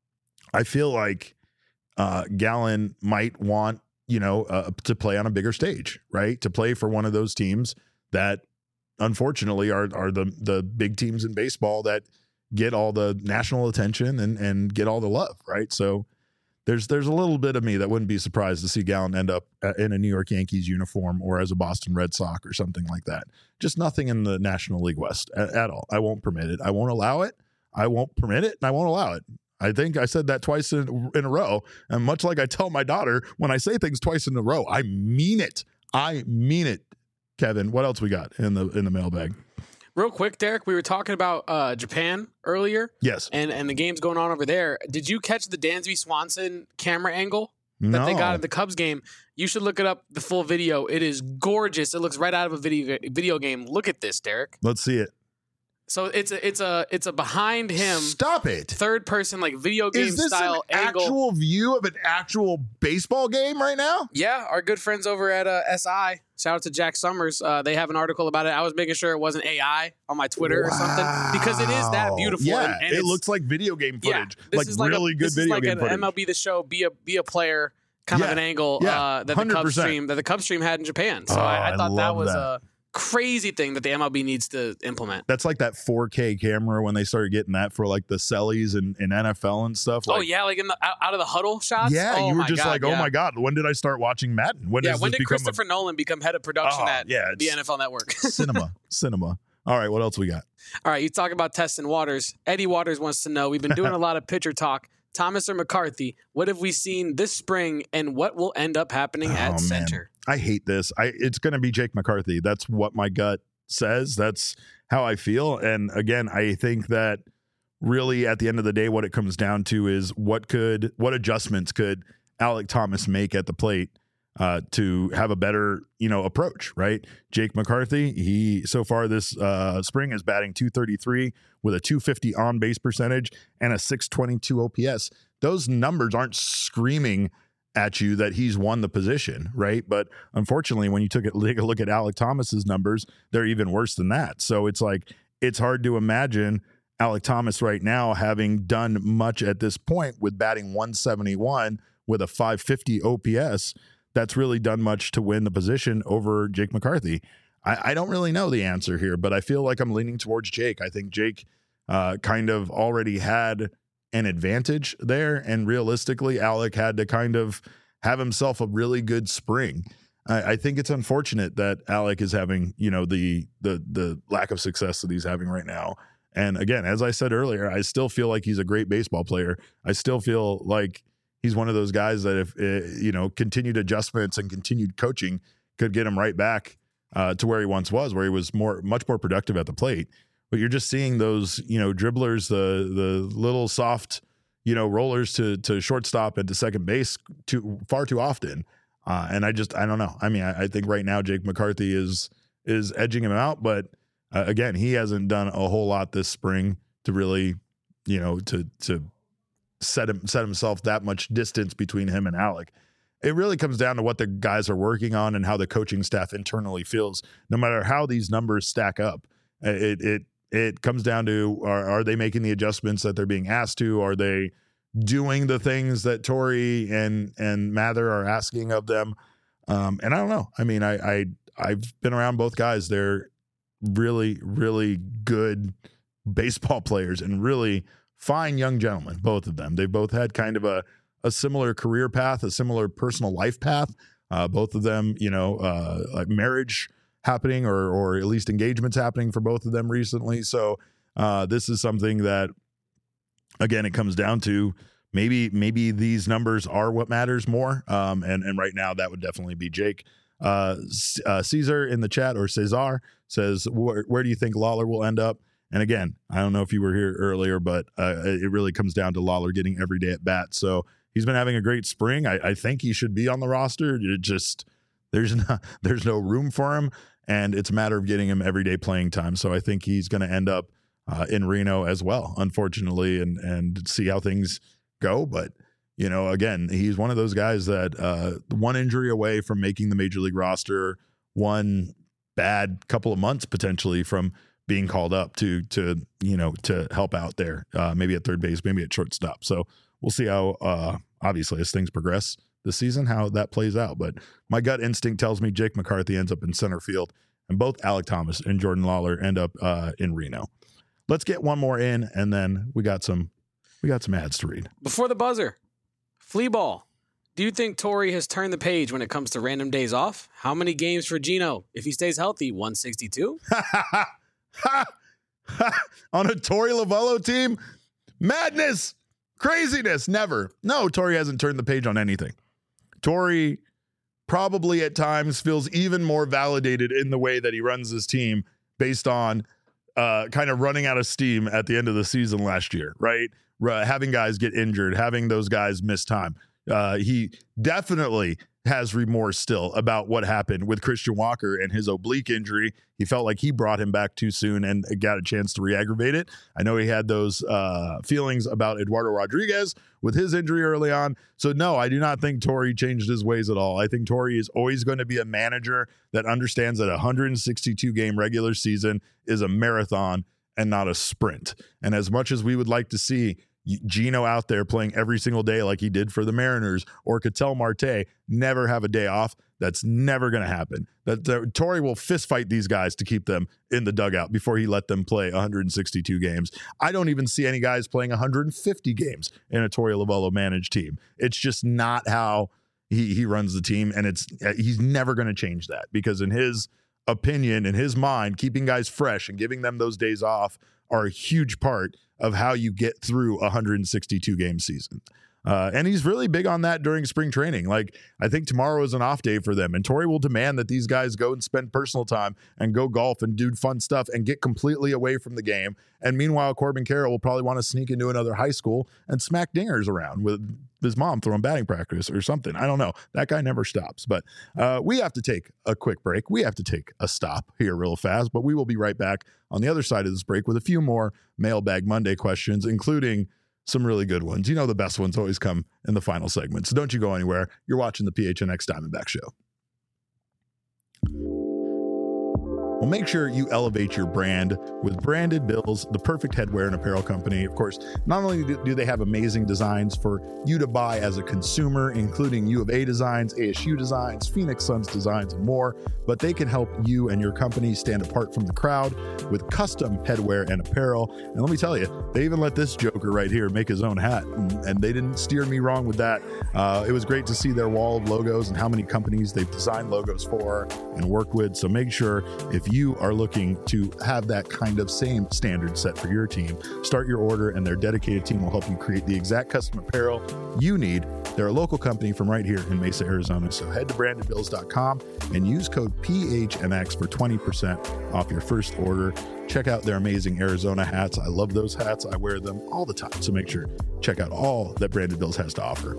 I feel like uh, Gallen might want, you know, uh, to play on a bigger stage, right? To play for one of those teams that, unfortunately, are are the the big teams in baseball that get all the national attention and and get all the love, right? So there's there's a little bit of me that wouldn't be surprised to see Gallen end up in a New York Yankees uniform or as a Boston Red Sox or something like that. Just nothing in the National League West at, at all. I won't permit it. I won't allow it. I won't permit it, and I won't allow it. I think I said that twice in, in a row. And much like I tell my daughter, when I say things twice in a row, I mean it. I mean it. Kevin, what else we got in the in the mailbag? Real quick, Derek, we were talking about uh, Japan earlier. Yes. And and the games going on over there. Did you catch the Dansby Swanson camera angle that No. they got at the Cubs game? You should look it up, the full video. It is gorgeous. It looks right out of a video video game. Look at this, Derek. Let's see it. So it's a it's a it's a behind him Stop it. third person like video game Is this style an angle. actual view of an actual baseball game right now? Yeah, our good friends over at uh, S I. Shout out to Jack Summers. Uh, they have an article about it. I was making sure it wasn't A I on my Twitter or something because it is that beautiful. Yeah, and, and it it's, looks like video game yeah, footage, this like is like really a, good this video is like game an footage. M L B The Show, be a be a player kind Yeah, of an angle yeah, uh, that the one hundred Cubs percent. stream that the Cubs stream had in Japan. So Oh, I, I I thought that love was that. a crazy thing that the M L B needs to implement. That's like that four K camera when they started getting that for like the Sellies and, and N F L and stuff. Like, oh yeah, like in the out, out of the huddle shots. yeah, oh, you were my just God, like, oh yeah. my God, when did I start watching Madden? When Yeah, does when this did become Christopher Nolan become head of production Oh, at yeah, the it's- N F L Network? a cinema, cinema? All right, what else we got? All right, you talk about testing waters. Eddie Waters wants to know, we've been doing a lot of pitcher talk. Thomas or McCarthy, what have we seen this spring and what will end up happening Oh, at man. center? I hate this. I it's going to be Jake McCarthy. That's what my gut says. That's how I feel. And again, I think that really at the end of the day, what it comes down to is what could what adjustments could Alek Thomas make at the plate uh, to have a better, you know, approach, right? Jake McCarthy, he so far this uh, spring is batting two thirty-three with a two fifty on base percentage and a six twenty-two O P S. Those numbers aren't screaming at you that he's won the position, right? But unfortunately, when you took it, take a look at Alek Thomas's numbers, they're even worse than that. So it's like, it's hard to imagine Alek Thomas right now having done much at this point with batting one seventy-one with a five fifty O P S. That's really done much to win the position over Jake McCarthy. I, I don't really know the answer here, but I feel like I'm leaning towards Jake. I think Jake uh, kind of already had an advantage there, and realistically, Alek had to kind of have himself a really good spring. I, I think it's unfortunate that Alek is having, you know, the the the lack of success that he's having right now. And again, as I said earlier, I still feel like he's a great baseball player. I still feel like he's one of those guys that if, uh, you know, continued adjustments and continued coaching could get him right back uh, to where he once was, where he was more, much more productive at the plate. But you're just seeing those, you know, dribblers, the the little soft, you know, rollers to to shortstop and to second base too far too often. Uh, and I just, I don't know. I mean, I, I think right now Jake McCarthy is is edging him out, but uh, again, he hasn't done a whole lot this spring to really, you know, to to set him set himself that much distance between him and Alek. It really comes down to what the guys are working on and how the coaching staff internally feels. No matter how these numbers stack up, it it it comes down to are, are they making the adjustments that they're being asked to? Are they doing the things that Torey and and Mather are asking of them? Um, and I don't know. I mean, I, I I've been around both guys. They're really really good baseball players and really fine young gentlemen. Both of them. They both had kind of a a similar career path, a similar personal life path. Uh, both of them, you know, uh, like marriage happening or or at least engagements happening for both of them recently. So uh, this is something that, again, it comes down to maybe maybe these numbers are what matters more. Um, and, and right now that would definitely be Jake. Uh, uh, Caesar in the chat, or Cesar, says, where, where do you think Lawlar will end up? And again, I don't know if you were here earlier, but uh, it really comes down to Lawlar getting every day at bat. So he's been having a great spring. I, I think he should be on the roster. It just there's no, there's no room for him. And it's a matter of getting him everyday playing time. So I think he's going to end up uh, in Reno as well, unfortunately, and and see how things go. But, you know, again, he's one of those guys that uh, one injury away from making the major league roster, one bad couple of months potentially from being called up to, to you know, to help out there, uh, maybe at third base, maybe at shortstop. So we'll see how, uh, obviously, as things progress this season, how that plays out. But my gut instinct tells me Jake McCarthy ends up in center field, and both Alek Thomas and Jordan Lawlar end up uh, in Reno. Let's get one more in, and then we got some we got some ads to read. Before the buzzer, flea ball. Do you think Torey has turned the page when it comes to random days off? How many games for Gino? If he stays healthy, one sixty-two? On a Torey Lovullo team? Madness! Craziness! Never. No, Torey hasn't turned the page on anything. Torey probably at times feels even more validated in the way that he runs his team based on uh, kind of running out of steam at the end of the season last year, right? R- having guys get injured, having those guys miss time. Uh, he definitely has remorse still about what happened with Christian Walker and his oblique injury. He felt like he brought him back too soon and got a chance to re-aggravate it. I know he had those uh, feelings about Eduardo Rodriguez with his injury early on. So no, I do not think Torey changed his ways at all. I think Torey is always going to be a manager that understands that a one hundred sixty-two game regular season is a marathon and not a sprint. And as much as we would like to see Gino out there playing every single day like he did for the Mariners, or Ketel Marte never have a day off, that's never going to happen. That uh, Torey will fist fight these guys to keep them in the dugout before he let them play one hundred sixty-two games. I don't even see any guys playing one hundred fifty games in a Torey Lovullo managed team. It's just not how he he runs the team, and it's he's never going to change that, because in his opinion, in his mind, keeping guys fresh and giving them those days off are a huge part of how you get through a one hundred sixty-two game season. Uh, and he's really big on that during spring training. Like, I think tomorrow is an off day for them, and Torey will demand that these guys go and spend personal time and go golf and do fun stuff and get completely away from the game. And meanwhile, Corbin Carroll will probably want to sneak into another high school and smack dingers around with his mom throwing batting practice or something. I don't know. That guy never stops. But uh, we have to take a quick break. We have to take a stop here real fast, but we will be right back on the other side of this break with a few more Mailbag Monday questions, including some really good ones. You know, the best ones always come in the final segment. So don't you go anywhere. You're watching the P H N X Diamondback Show. Well, make sure you elevate your brand with Branded Bills, the perfect headwear and apparel company. Of course, not only do they have amazing designs for you to buy as a consumer, including U of A designs, A S U designs, Phoenix Suns designs, and more, but they can help you and your company stand apart from the crowd with custom headwear and apparel. And let me tell you, they even let this joker right here make his own hat, and, and they didn't steer me wrong with that. Uh, it was great to see their wall of logos and how many companies they've designed logos for and worked with. So make sure if you are looking to have that kind of same standard set for your team, start your order and their dedicated team will help you create the exact custom apparel you need. They're a local company from right here in Mesa, Arizona. So head to branded bills dot com and use code P H N X for twenty percent off your first order. Check out their amazing Arizona hats. I love those hats. I wear them all the time. So make sure check out all that Branded Bills has to offer.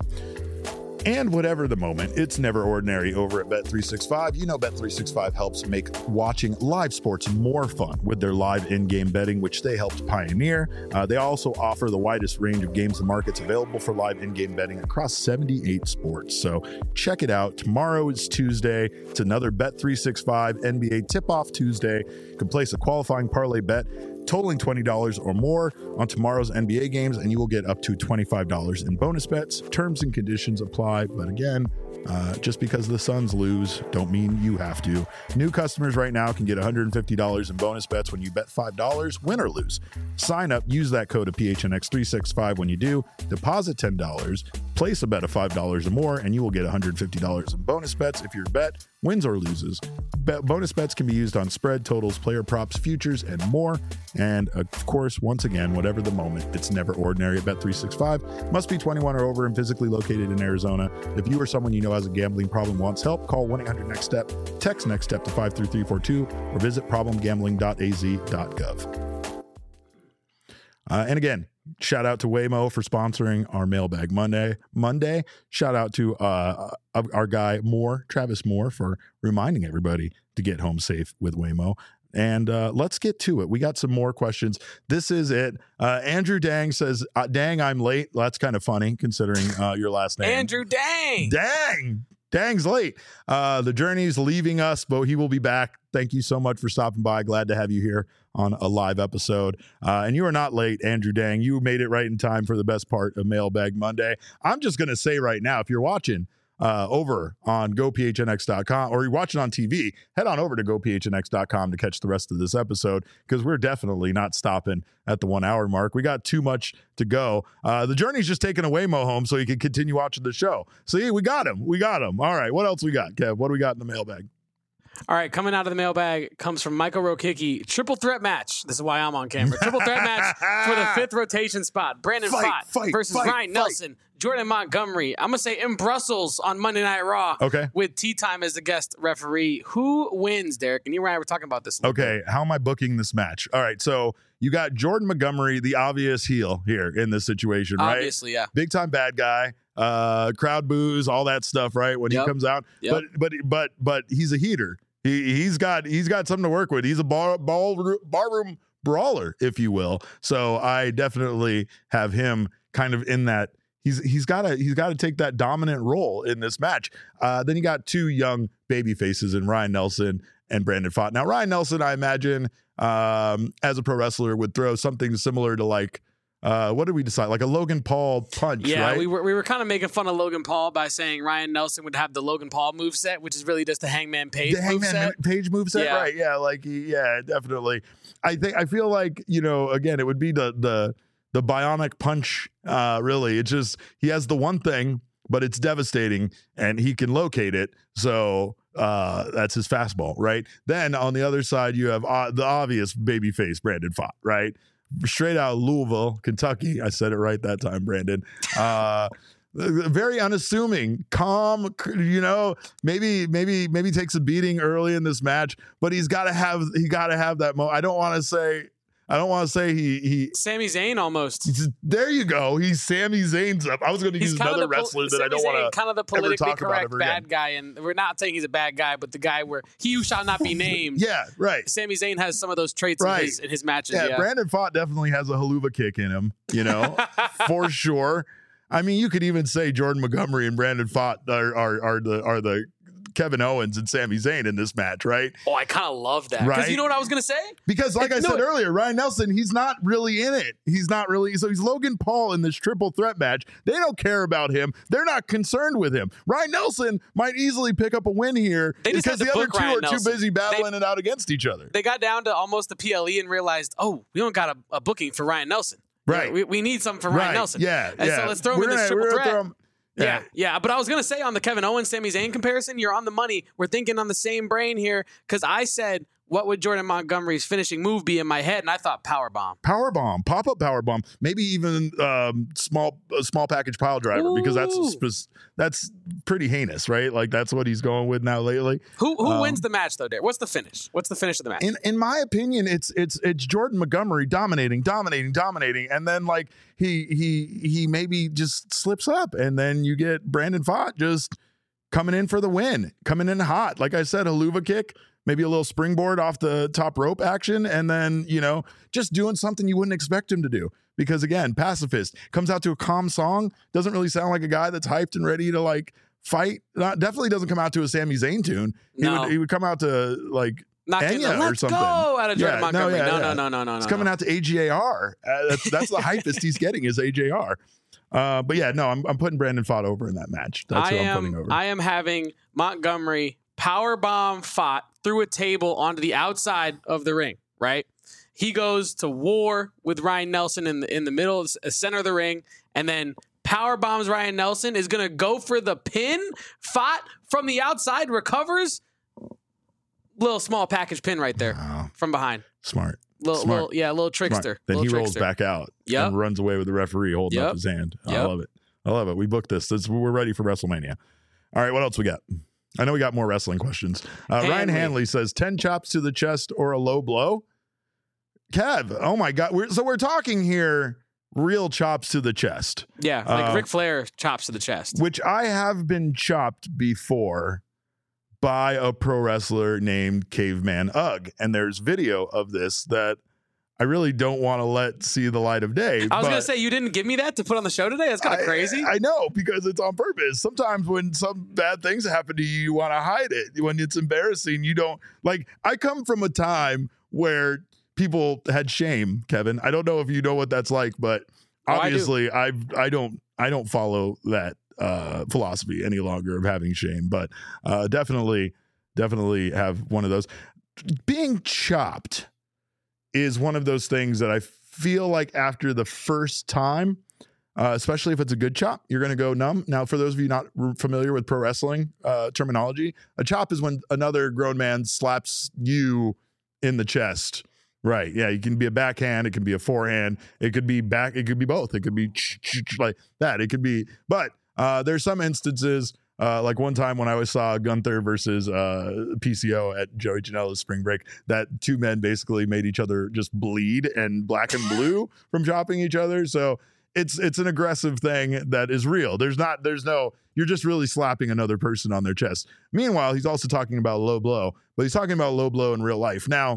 And whatever the moment, it's never ordinary over at Bet three sixty-five. You know Bet three sixty-five helps make watching live sports more fun with their live in-game betting, which they helped pioneer. Uh, they also offer the widest range of games and markets available for live in-game betting across seventy-eight sports. So check it out. Tomorrow is Tuesday. It's another Bet three sixty-five N B A tip-off Tuesday. You can place a qualifying parlay bet totaling twenty dollars or more on tomorrow's N B A games, and you will get up to twenty-five dollars in bonus bets. Terms and conditions apply, but again, uh, just because the Suns lose don't mean you have to. New customers right now can get one hundred fifty dollars in bonus bets when you bet five dollars, win or lose. Sign up, use that code of P H N X three sixty-five when you do, deposit ten dollars, place a bet of five dollars or more, and you will get one hundred fifty dollars in bonus bets if your bet wins or loses. Bet, bonus bets can be used on spread, totals, player props, futures, and more. And of course, once again, whatever the moment, it's never ordinary at Bet three sixty-five. Must be twenty-one or over and physically located in Arizona. If you or someone you know has a gambling problem wants help, call one eight hundred next step, text next step to five three three four two, or visit problem gambling dot a z dot gov. Uh, and again, shout out to Waymo for sponsoring our Mailbag Monday. Monday. Shout out to uh, our guy Moore, Travis Moore, for reminding everybody to get home safe with Waymo. And uh, let's get to it. We got some more questions. This is it. Uh, Andrew Dang says, uh, dang, I'm late. Well, that's kind of funny considering uh, your last name. Andrew Dang. Dang. Dang's late. Uh, the journey's leaving us, but he will be back. Thank you so much for stopping by. Glad to have you here on a live episode. Uh, and you are not late, Andrew Dang. You made it right in time for the best part of Mailbag Monday. I'm just going to say right now, if you're watching uh, over on go P H N X dot com or you're watching on T V, head on over to go P H N X dot com to catch the rest of this episode because we're definitely not stopping at the one hour mark. We got too much to go. Uh, the journey's just taking a Waymo home so you can continue watching the show. See, we got him. We got him. All right. What else we got, Kev? What do we got in the mailbag? All right, coming out of the mailbag comes from Michael Rokicki. Triple threat match. This is why I'm on camera. Triple threat match for the fifth rotation spot. Brandon Fight, Pfaadt fight, versus fight, Ryan fight. Nelson. Jordan Montgomery. I'm going to say in Brussels on Monday Night Raw. Okay. With Tea Time as the guest referee. Who wins, Derek? And you and I were talking about this. a little Okay, bit. how am I booking this match? All right, so you got Jordan Montgomery, the obvious heel here in this situation, right? Obviously, yeah. Big time bad guy, uh, crowd boos, all that stuff, right? When Yep. he comes out, Yep. but but but but he's a heater. He he's got he's got something to work with. He's a bar ball barroom brawler, if you will. So I definitely have him kind of in that. He's he's got to he's got to take that dominant role in this match. Uh, then you got two young baby faces in Ryan Nelson and Brandon Pfaadt. Now Ryan Nelson, I imagine, um, as a pro wrestler, would throw something similar to like. Uh, what did we decide? Like a Logan Paul punch, Yeah, right? we were we were kind of making fun of Logan Paul by saying Ryan Nelson would have the Logan Paul moveset, which is really just the Hangman Page the Hangman moveset. Page moveset, Yeah. right? Yeah, like he, yeah, definitely. I think I feel like you know, again, it would be the the the bionic punch. Uh, really, it's just he has the one thing, but it's devastating, and he can locate it. So uh, that's his fastball, right? Then on the other side, you have uh, the obvious babyface Brandon Pfaadt, right? Straight out of Louisville, Kentucky. I said it right that time, Brandon. Uh, very unassuming, calm, you know, maybe, maybe, maybe takes a beating early in this match, but he's got to have, he got to have that moment. I don't want to say, I don't want to say he he. Sami Zayn almost. There you go. He's Sami Zayn's up. I was going to use another the, wrestler that Sami I don't want to kind of the politically talk correct about bad again. guy, and we're not saying he's a bad guy, but the guy where he who shall not be named. Yeah, right. Sami Zayn has some of those traits Right. in, his, in his matches. Yeah, Yeah, Brandon Fott definitely has a haluva kick in him, you know, for sure. I mean, you could even say Jordan Montgomery and Brandon Fott are are, are the are the Kevin Owens and Sami Zayn in this match, right? Oh, I kind of love that. Because Right? you know what I was going to say? Because like I No, said earlier, Ryan Nelson, he's not really in it. He's not really. So he's Logan Paul in this triple threat match. They don't care about him. They're not concerned with him. Ryan Nelson might easily pick up a win here They just because had the to other book two Ryan are Nelson. too busy battling They- it out against each other. They got down to almost the P L E and realized, oh, we don't got a, a booking for Ryan Nelson. Right. We, we need something for right. Ryan Nelson. Yeah. And yeah. so let's throw him We're in this gonna- triple we're gonna threat. throw him- Yeah, yeah, but I was gonna say on the Kevin Owens, Sami Zayn comparison, you're on the money. We're thinking on the same brain here because I said, what would Jordan Montgomery's finishing move be in my head, and I thought power bomb. Power bomb, pop up power bomb, maybe even um, small a small package pile driver because that's Ooh. spe- that's pretty heinous, right? Like that's what he's going with now lately. Who who Um, wins the match though, Derek? What's the finish? What's the finish of the match? In in my opinion, it's it's it's Jordan Montgomery dominating, dominating, dominating, and then like he he he maybe just slips up, and then you get Brandon Fott just coming in for the win, coming in hot. Like I said, a haluva kick, maybe a little springboard off the top rope action, and then you know just doing something you wouldn't expect him to do. Because again, pacifist comes out to a calm song, doesn't really sound like a guy that's hyped and ready to like fight. Not definitely doesn't come out to a Sami Zayn tune. He No. would he would come out to like. Not getting the Enya or let's something. go out of Jordan Yeah, no, Montgomery. yeah, No, yeah. no, no, no, no, no. It's coming out to A J R. Uh, that's that's the hypest he's getting is A J R. Uh, but yeah, no, I'm I'm putting Brandon Fott over in that match. That's I who I'm am, putting over. I am having Montgomery power bomb Fott through a table onto the outside of the ring, right? He goes to war with Ryan Nelson in the in the middle, of the center of the ring, and then power bombs Ryan Nelson, is going to go for the pin. Fott from the outside recovers. Little small package pin right there Wow. from behind. Smart. Little, Smart. little yeah, little trickster. Smart. Then little he rolls trickster. back out Yep. and runs away with the referee holding Yep. up his hand. I Yep. love it. I love it. We booked this. this. We're ready for WrestleMania. All right, what else we got? I know we got more wrestling questions. Uh, Ryan Hanley. Hanley says ten chops to the chest or a low blow. Kev, oh my God. We're, so we're talking here real chops to the chest, Yeah, like Uh, Ric Flair chops to the chest. which I have been chopped before by a pro wrestler named Caveman Ugg. And there's video of this that I really don't want to let see the light of day. I was but gonna say you didn't give me that to put on the show today. That's kind I- of crazy. I know, because it's on purpose. Sometimes when some bad things happen to you, you want to hide it. When it's embarrassing, you don't like. I come from a time where people had shame, Kevin. I don't know if you know what that's like, but Oh, I do. obviously I I don't I don't follow that uh philosophy any longer of having shame, but uh definitely definitely have one of those. Being chopped is one of those things that I feel like after the first time, uh, especially if it's a good chop, you're going to go numb. Now, for those of you not r- familiar with pro wrestling uh, terminology, a chop is when another grown man slaps you in the chest. Right. Yeah. You can be a backhand. It can be a forehand. It could be back. It could be both. It could be like that. It could be, but uh, there's some instances Uh, like one time when I was saw Gunther versus uh, P C O at Joey Janela's spring break, that two men basically made each other just bleed and black and blue from chopping each other. So it's it's an aggressive thing that is real. There's not, there's no, you're just really slapping another person on their chest. Meanwhile, he's also talking about low blow, but he's talking about low blow in real life. Now,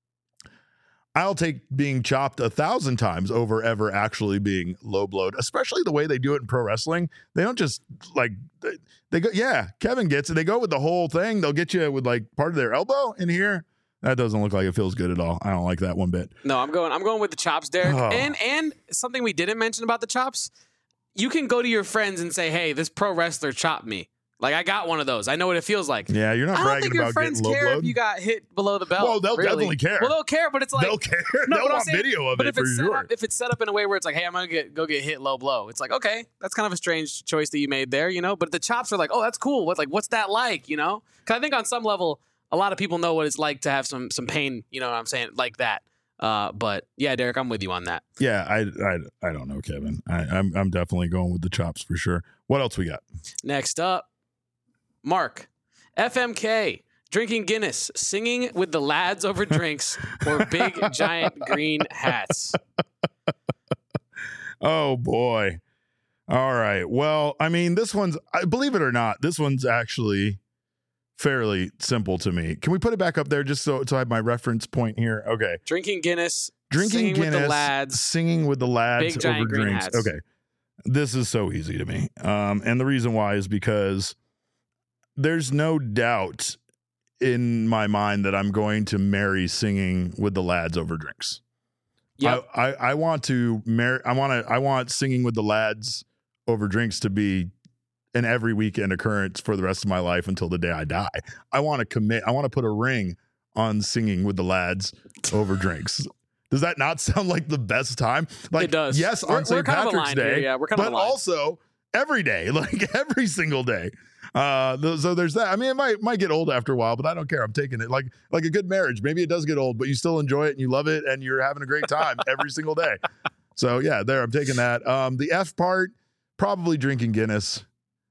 I'll take being chopped a thousand times over ever actually being low blowed, especially the way they do it in pro wrestling. They don't just like, they, they go, yeah, Kevin gets it. They go with the whole thing. They'll get you with like part of their elbow in here. That doesn't look like it feels good at all. I don't like that one bit. No, I'm going. I'm going with the chops, Derek. Oh. And and something we didn't mention about the chops, you can go to your friends and say, "Hey, this pro wrestler chopped me. Like I got one of those. I know what it feels like." Yeah, you're not I don't bragging think your about friends getting low care if blowed. you got hit below the belt. Well, they'll really. definitely care. Well, they'll care, but it's like They'll care. No, They'll but I'm want saying- video of But it if for it's set sure. up, if it's set up in a way where it's like, "Hey, I'm gonna get go get hit low blow," it's like, okay, that's kind of a strange choice that you made there, you know. But the chops are like, "Oh, that's cool. What like what's that like?" You know? Because I think on some level, a lot of people know what it's like to have some some pain. You know what I'm saying? Like that. Uh, but yeah, Derek, I'm with you on that. Yeah, I, I I don't know, Kevin. I, I'm I'm definitely going with the chops for sure. What else we got? Next up, Mark, F M K. Drinking Guinness, singing with the lads over drinks, or big giant green hats? Oh boy. All right. Well, I mean, this one's, I believe it or not, this one's actually fairly simple to me. Can we put it back up there just so, so I have my reference point here? Okay. Drinking Guinness, Drinking singing Guinness, with the lads, singing with the lads big giant over green drinks. hats. Okay. This is so easy to me. Um, and the reason why is because there's no doubt in my mind that I'm going to marry singing with the lads over drinks. Yep. I, I, I want to marry, I want to, I want singing with the lads over drinks to be an every weekend occurrence for the rest of my life until the day I die. I want to commit, I want to put a ring on singing with the lads over drinks. Does that not sound like the best time? Like, It does. Yes, We're- on Saint we're kind of Patrick's aligned Day, here, yeah, we're kind of but aligned. also every day, like every single day. Uh, th- so there's that. I mean, it might might get old after a while, but I don't care. I'm taking it like like a good marriage. Maybe it does get old, but you still enjoy it and you love it and you're having a great time every single day. So yeah, there I'm taking that. Um, the F part, probably drinking Guinness,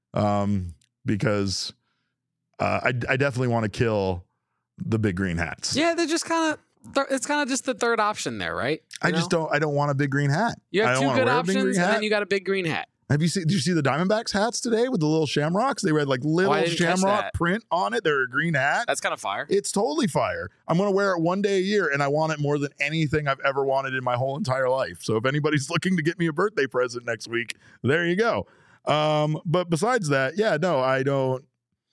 um, because uh, I I definitely want to kill the big green hats. Yeah, they're just kind of, th- it's kind of just the third option there, right? I You just know? don't I don't want a big green hat. You I have don't two wanna good wear a big green options, and hat. then you got a big green hat. Have you seen? Did you see the Diamondbacks hats today with the little shamrocks? They had like little Oh, I didn't catch shamrock that. print on it. They're a green hat. That's kind of fire. It's totally fire. I'm going to wear it one day a year, and I want it more than anything I've ever wanted in my whole entire life. So if anybody's looking to get me a birthday present next week, there you go. Um, but besides that, yeah, no, I don't.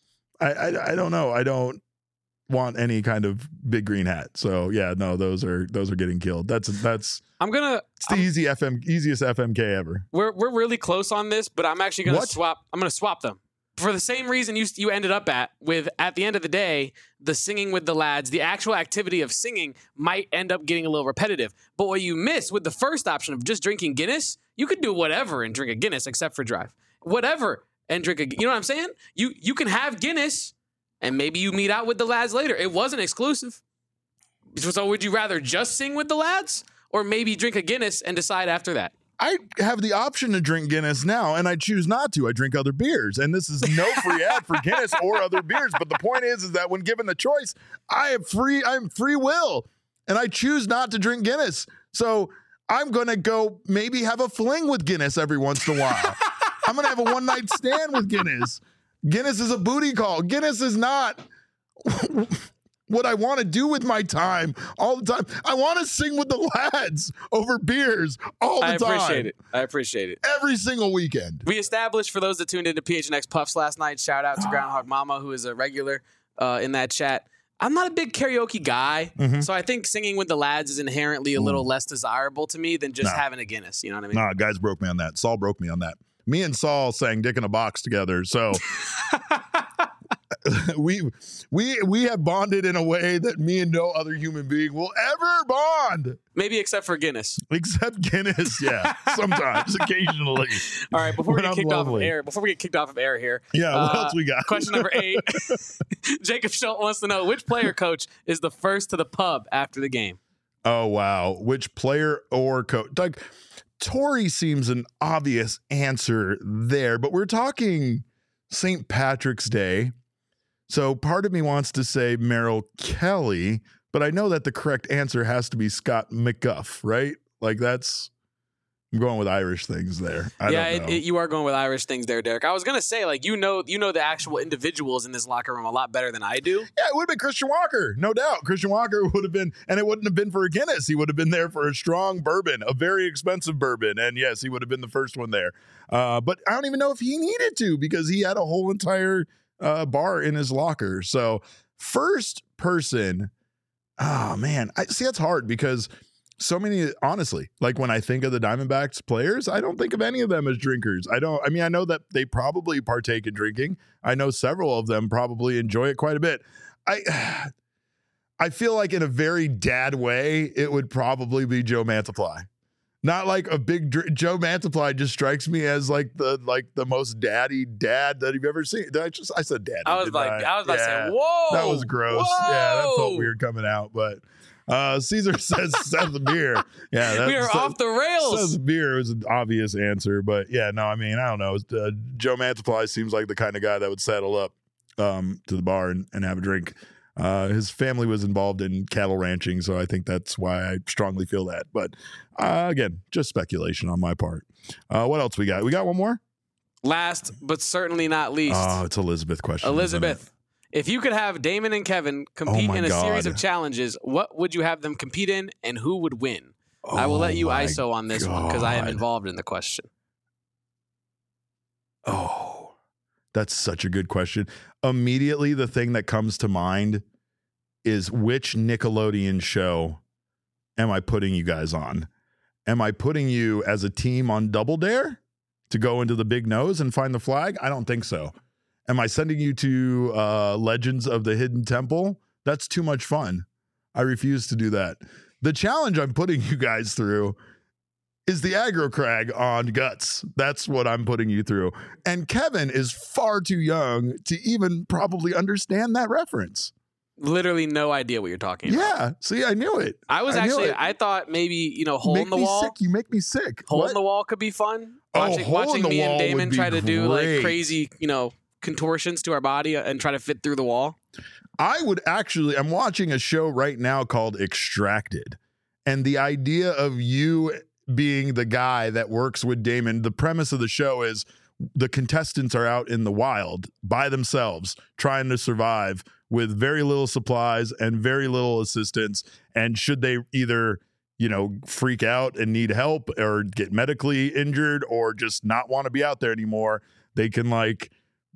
I, I I don't know. I don't want any kind of big green hat. So yeah, no, those are those are getting killed. That's that's I'm gonna. it's the easy F M easiest F M K ever. We're we're really close on this, but I'm actually gonna What? swap. I'm gonna swap them for the same reason you you ended up at with. At the end of the day, the singing with the lads, the actual activity of singing might end up getting a little repetitive. But what you miss with the first option of just drinking Guinness, you could do whatever and drink a Guinness except for drive. Whatever and drink a. You know what I'm saying? You you can have Guinness, and maybe you meet out with the lads later. It wasn't exclusive. So would you rather just sing with the lads, or maybe drink a Guinness and decide after that? I have the option to drink Guinness now, and I choose not to. I drink other beers, and this is no free ad for Guinness or other beers. But the point is, is that when given the choice, I have free. I'm free will, and I choose not to drink Guinness. So I'm gonna go maybe have a fling with Guinness every once in a while. I'm gonna have a one night stand with Guinness. Guinness is a booty call. Guinness is not what I want to do with my time all the time. I want to sing with the lads over beers all the I time. appreciate it. I appreciate it. Every single weekend. We established, for those that tuned into P H N X Puffs last night, shout out to Groundhog Mama, who is a regular uh, in that chat. I'm not a big karaoke guy, Mhm. so I think singing with the lads is inherently a little less desirable to me than just No. having a Guinness. You know what I mean? Nah, guys broke me on that. Saul broke me on that. Me and Saul sang Dick in a Box together. So we we we have bonded in a way that me and no other human being will ever bond. Maybe except for Guinness. Except Guinness, yeah. Sometimes, occasionally. All right, before we When get I'm kicked off of lonely. air, before we get kicked off of air here. Yeah, what uh, else we got? Question number eight. Jacob Schultz wants to know which player coach is the first to the pub after the game. Oh wow. Which player or coach? Like Torrey seems an obvious answer there, but we're talking Saint Patrick's Day. So part of me wants to say Merrill Kelly, but I know that the correct answer has to be Scott McGuff, right? Like that's I'm going with Irish things there. I yeah, don't know. it, it, you are going with Irish things there, Derek. I was gonna say, like, you know, you know the actual individuals in this locker room a lot better than I do. Yeah, it would have been Christian Walker, no doubt. Christian Walker would have been, and it wouldn't have been for a Guinness. He would have been there for a strong bourbon, a very expensive bourbon. And yes, he would have been the first one there. Uh, but I don't even know if he needed to because he had a whole entire uh, bar in his locker. So first person, oh man, I see that's hard because so many, honestly, like when I think of the Diamondbacks players, I don't think of any of them as drinkers. I don't, I mean, I know that they probably partake in drinking. I know several of them probably enjoy it quite a bit. I, I feel like in a very dad way, it would probably be Joe Mantiply. Not like a big dr- Joe Mantiply just strikes me as like the like the most daddy dad that you've ever seen. Did I just I said daddy. I was didn't like, I, was about Yeah, to say, whoa, that was gross. Whoa! Yeah, that felt weird coming out. But uh, Caesar says Seth Beer. Yeah, that, we are Seth, off the rails. Seth Beer was an obvious answer, but yeah, no, I mean I don't know. Uh, Joe Mantiply seems like the kind of guy that would saddle up um, to the bar and, and have a drink. Uh, his family was involved in cattle ranching, so I think that's why I strongly feel that. But uh, again, just speculation on my part. Uh, what else we got? We got one more? Last, but certainly not least. Oh, it's Elizabeth question. Elizabeth, if you could have Damon and Kevin compete Oh in a God. series of challenges, what would you have them compete in and who would win? Oh I will let you my I S O on this one because I am God. involved in the question. Oh, that's such a good question. Immediately, the thing that comes to mind is which Nickelodeon show am I putting you guys on? Am I putting you as a team on Double Dare to go into the big nose and find the flag? I don't think so. Am I sending you to uh, Legends of the Hidden Temple? That's too much fun. I refuse to do that. The challenge I'm putting you guys through is the aggro crag on Guts. That's what I'm putting you through. And Kevin is far too young to even probably understand that reference. Literally no idea what you're talking about. Yeah. See, I knew it. I was I knew actually, it. I thought maybe, you know, hole make in the me wall. sick. You make me sick. Hole What? in the wall could be fun. Oh, Watching, hole in watching the me and wall Damon would be try to do like great. crazy, you know, contortions to our body and try to fit through the wall. I would actually, I'm watching a show right now called Extracted. And the idea of you being the guy that works with Damon, the premise of the show is the contestants are out in the wild by themselves trying to survive with very little supplies and very little assistance. And should they either, you know, freak out and need help or get medically injured or just not want to be out there anymore, they can like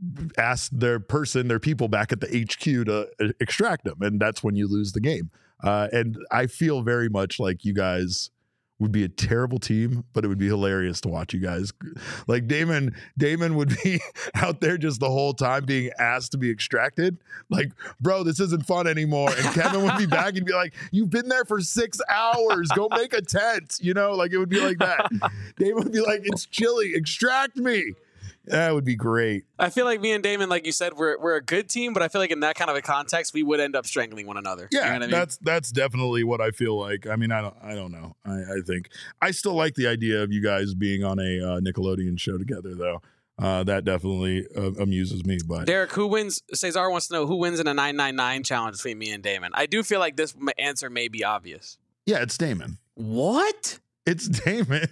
ask their person, their people back at the H Q to uh, extract them. And that's when you lose the game. Uh, and I feel very much like you guys would be a terrible team, but it would be hilarious to watch you guys. Like Damon, Damon would be out there just the whole time being asked to be extracted. Like, bro, this isn't fun anymore. And Kevin would be back and be like, you've been there for six hours. Go make a tent. You know, like it would be like that. Damon would be like, it's chilly. Extract me. That would be great. I feel like me and Damon, like you said, we're we're a good team, but I feel like in that kind of a context, we would end up strangling one another. Yeah, you know what I mean? that's that's definitely what I feel like. I mean, I don't, I don't know. I, I think I still like the idea of you guys being on a uh, Nickelodeon show together, though. Uh, that definitely uh, amuses me. But Derek, who wins? Cesar wants to know who wins in a nine nine nine challenge between me and Damon. I do feel like this answer may be obvious. yeah, it's Damon. What? It's Damon.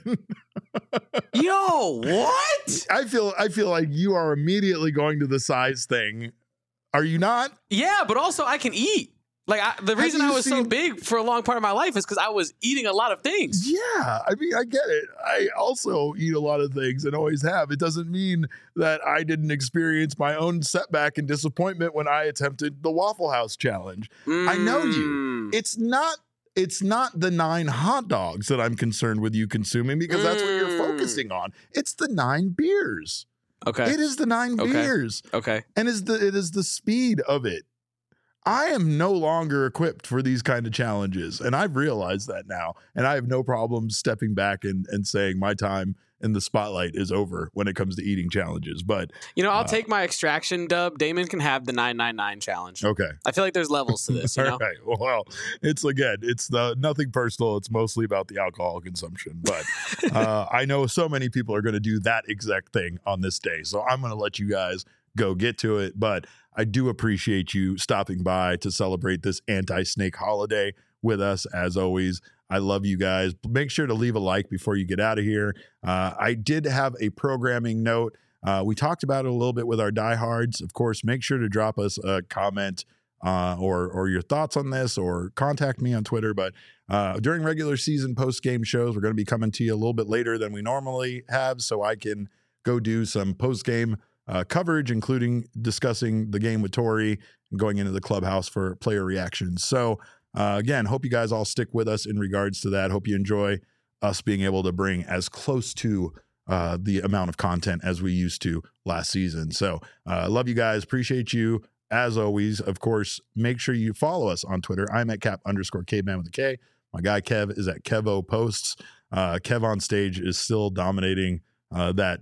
Yo, what? I feel I feel like you are immediately going to the size thing. Are you not? Yeah, but also I can eat. Like I, the reason you I was so seen- big for a long part of my life is because I was eating a lot of things. Yeah, I mean, I get it. I also eat a lot of things and always have. It doesn't mean that I didn't experience my own setback and disappointment when I attempted the Waffle House challenge. I know you. Mm. It's not it's not the nine hot dogs that I'm concerned with you consuming because that's what you're Mm. focusing on. It's the nine beers. Okay. It is the nine Okay. beers. Okay. And is the it is the speed of it. I am no longer equipped for these kind of challenges. And I've realized that now. And I have no problem stepping back and, and saying my time in the spotlight is over when it comes to eating challenges. But You know, I'll Uh, take my extraction dub. Damon can have the nine nine nine challenge. okay. I feel like there's levels to this, you know? All right. Well, it's again, it's the nothing personal. It's mostly about the alcohol consumption. But uh, I know so many people are going to do that exact thing on this day. So I'm going to let you guys go get to it. But I do appreciate you stopping by to celebrate this anti-snake holiday with us. As always, I love you guys. Make sure to leave a like before you get out of here. Uh, I did have a programming note. Uh, we talked about it a little bit with our diehards. Of course, make sure to drop us a comment uh, or or your thoughts on this, or contact me on Twitter. But uh, during regular season post game shows, we're going to be coming to you a little bit later than we normally have, so I can go do some post game uh, coverage, including discussing the game with Tori and going into the clubhouse for player reactions. So uh, again, hope you guys all stick with us in regards to that. Hope you enjoy us being able to bring as close to uh, the amount of content as we used to last season. So uh, love you guys. Appreciate you. As always, of course, make sure you follow us on Twitter. I'm at cap underscore caveman with a K. My guy Kev is at Kevo Posts. Uh, Kev on stage is still dominating uh, that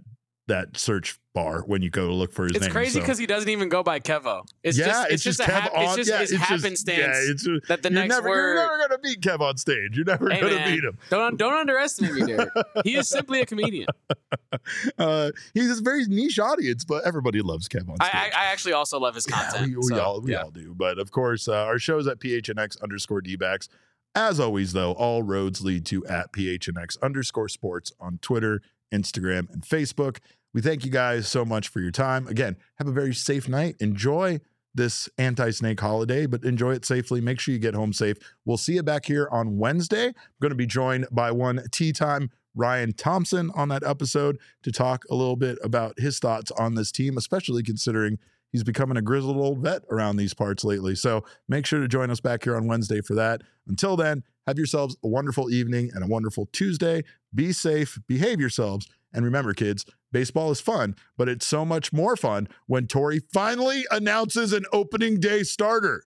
that search bar when you go to look for his it's name. It's crazy because so. he doesn't even go by Kevo. It's yeah, just, it's, it's just, just a Kev hap- on. it's just yeah, it's it's happenstance just, yeah, it's just, that the you're next never, word. You're never going to beat Kev on stage. You're never hey, going to man, beat him. Don't don't underestimate me, Derek. He is simply a comedian. uh, he's a very niche audience, but everybody loves Kev on stage. I, I, I actually also love his content. Yeah, we, we so, all we yeah. all do. But of course, uh, our show's at P H N X underscore D-backs. As always, though, all roads lead to at P H N X underscore sports on Twitter, Instagram, and Facebook. We thank you guys so much for your time. Again, have a very safe night. Enjoy this anti-snake holiday, but enjoy it safely. Make sure you get home safe. We'll see you back here on Wednesday. I'm going to be joined by one tea time Ryan Thompson on that episode to talk a little bit about his thoughts on this team, especially considering he's becoming a grizzled old vet around these parts lately. So make sure to join us back here on Wednesday for that. Until then, have yourselves a wonderful evening and a wonderful Tuesday. Be safe, behave yourselves. And remember, kids, baseball is fun, but it's so much more fun when Torey finally announces an opening day starter.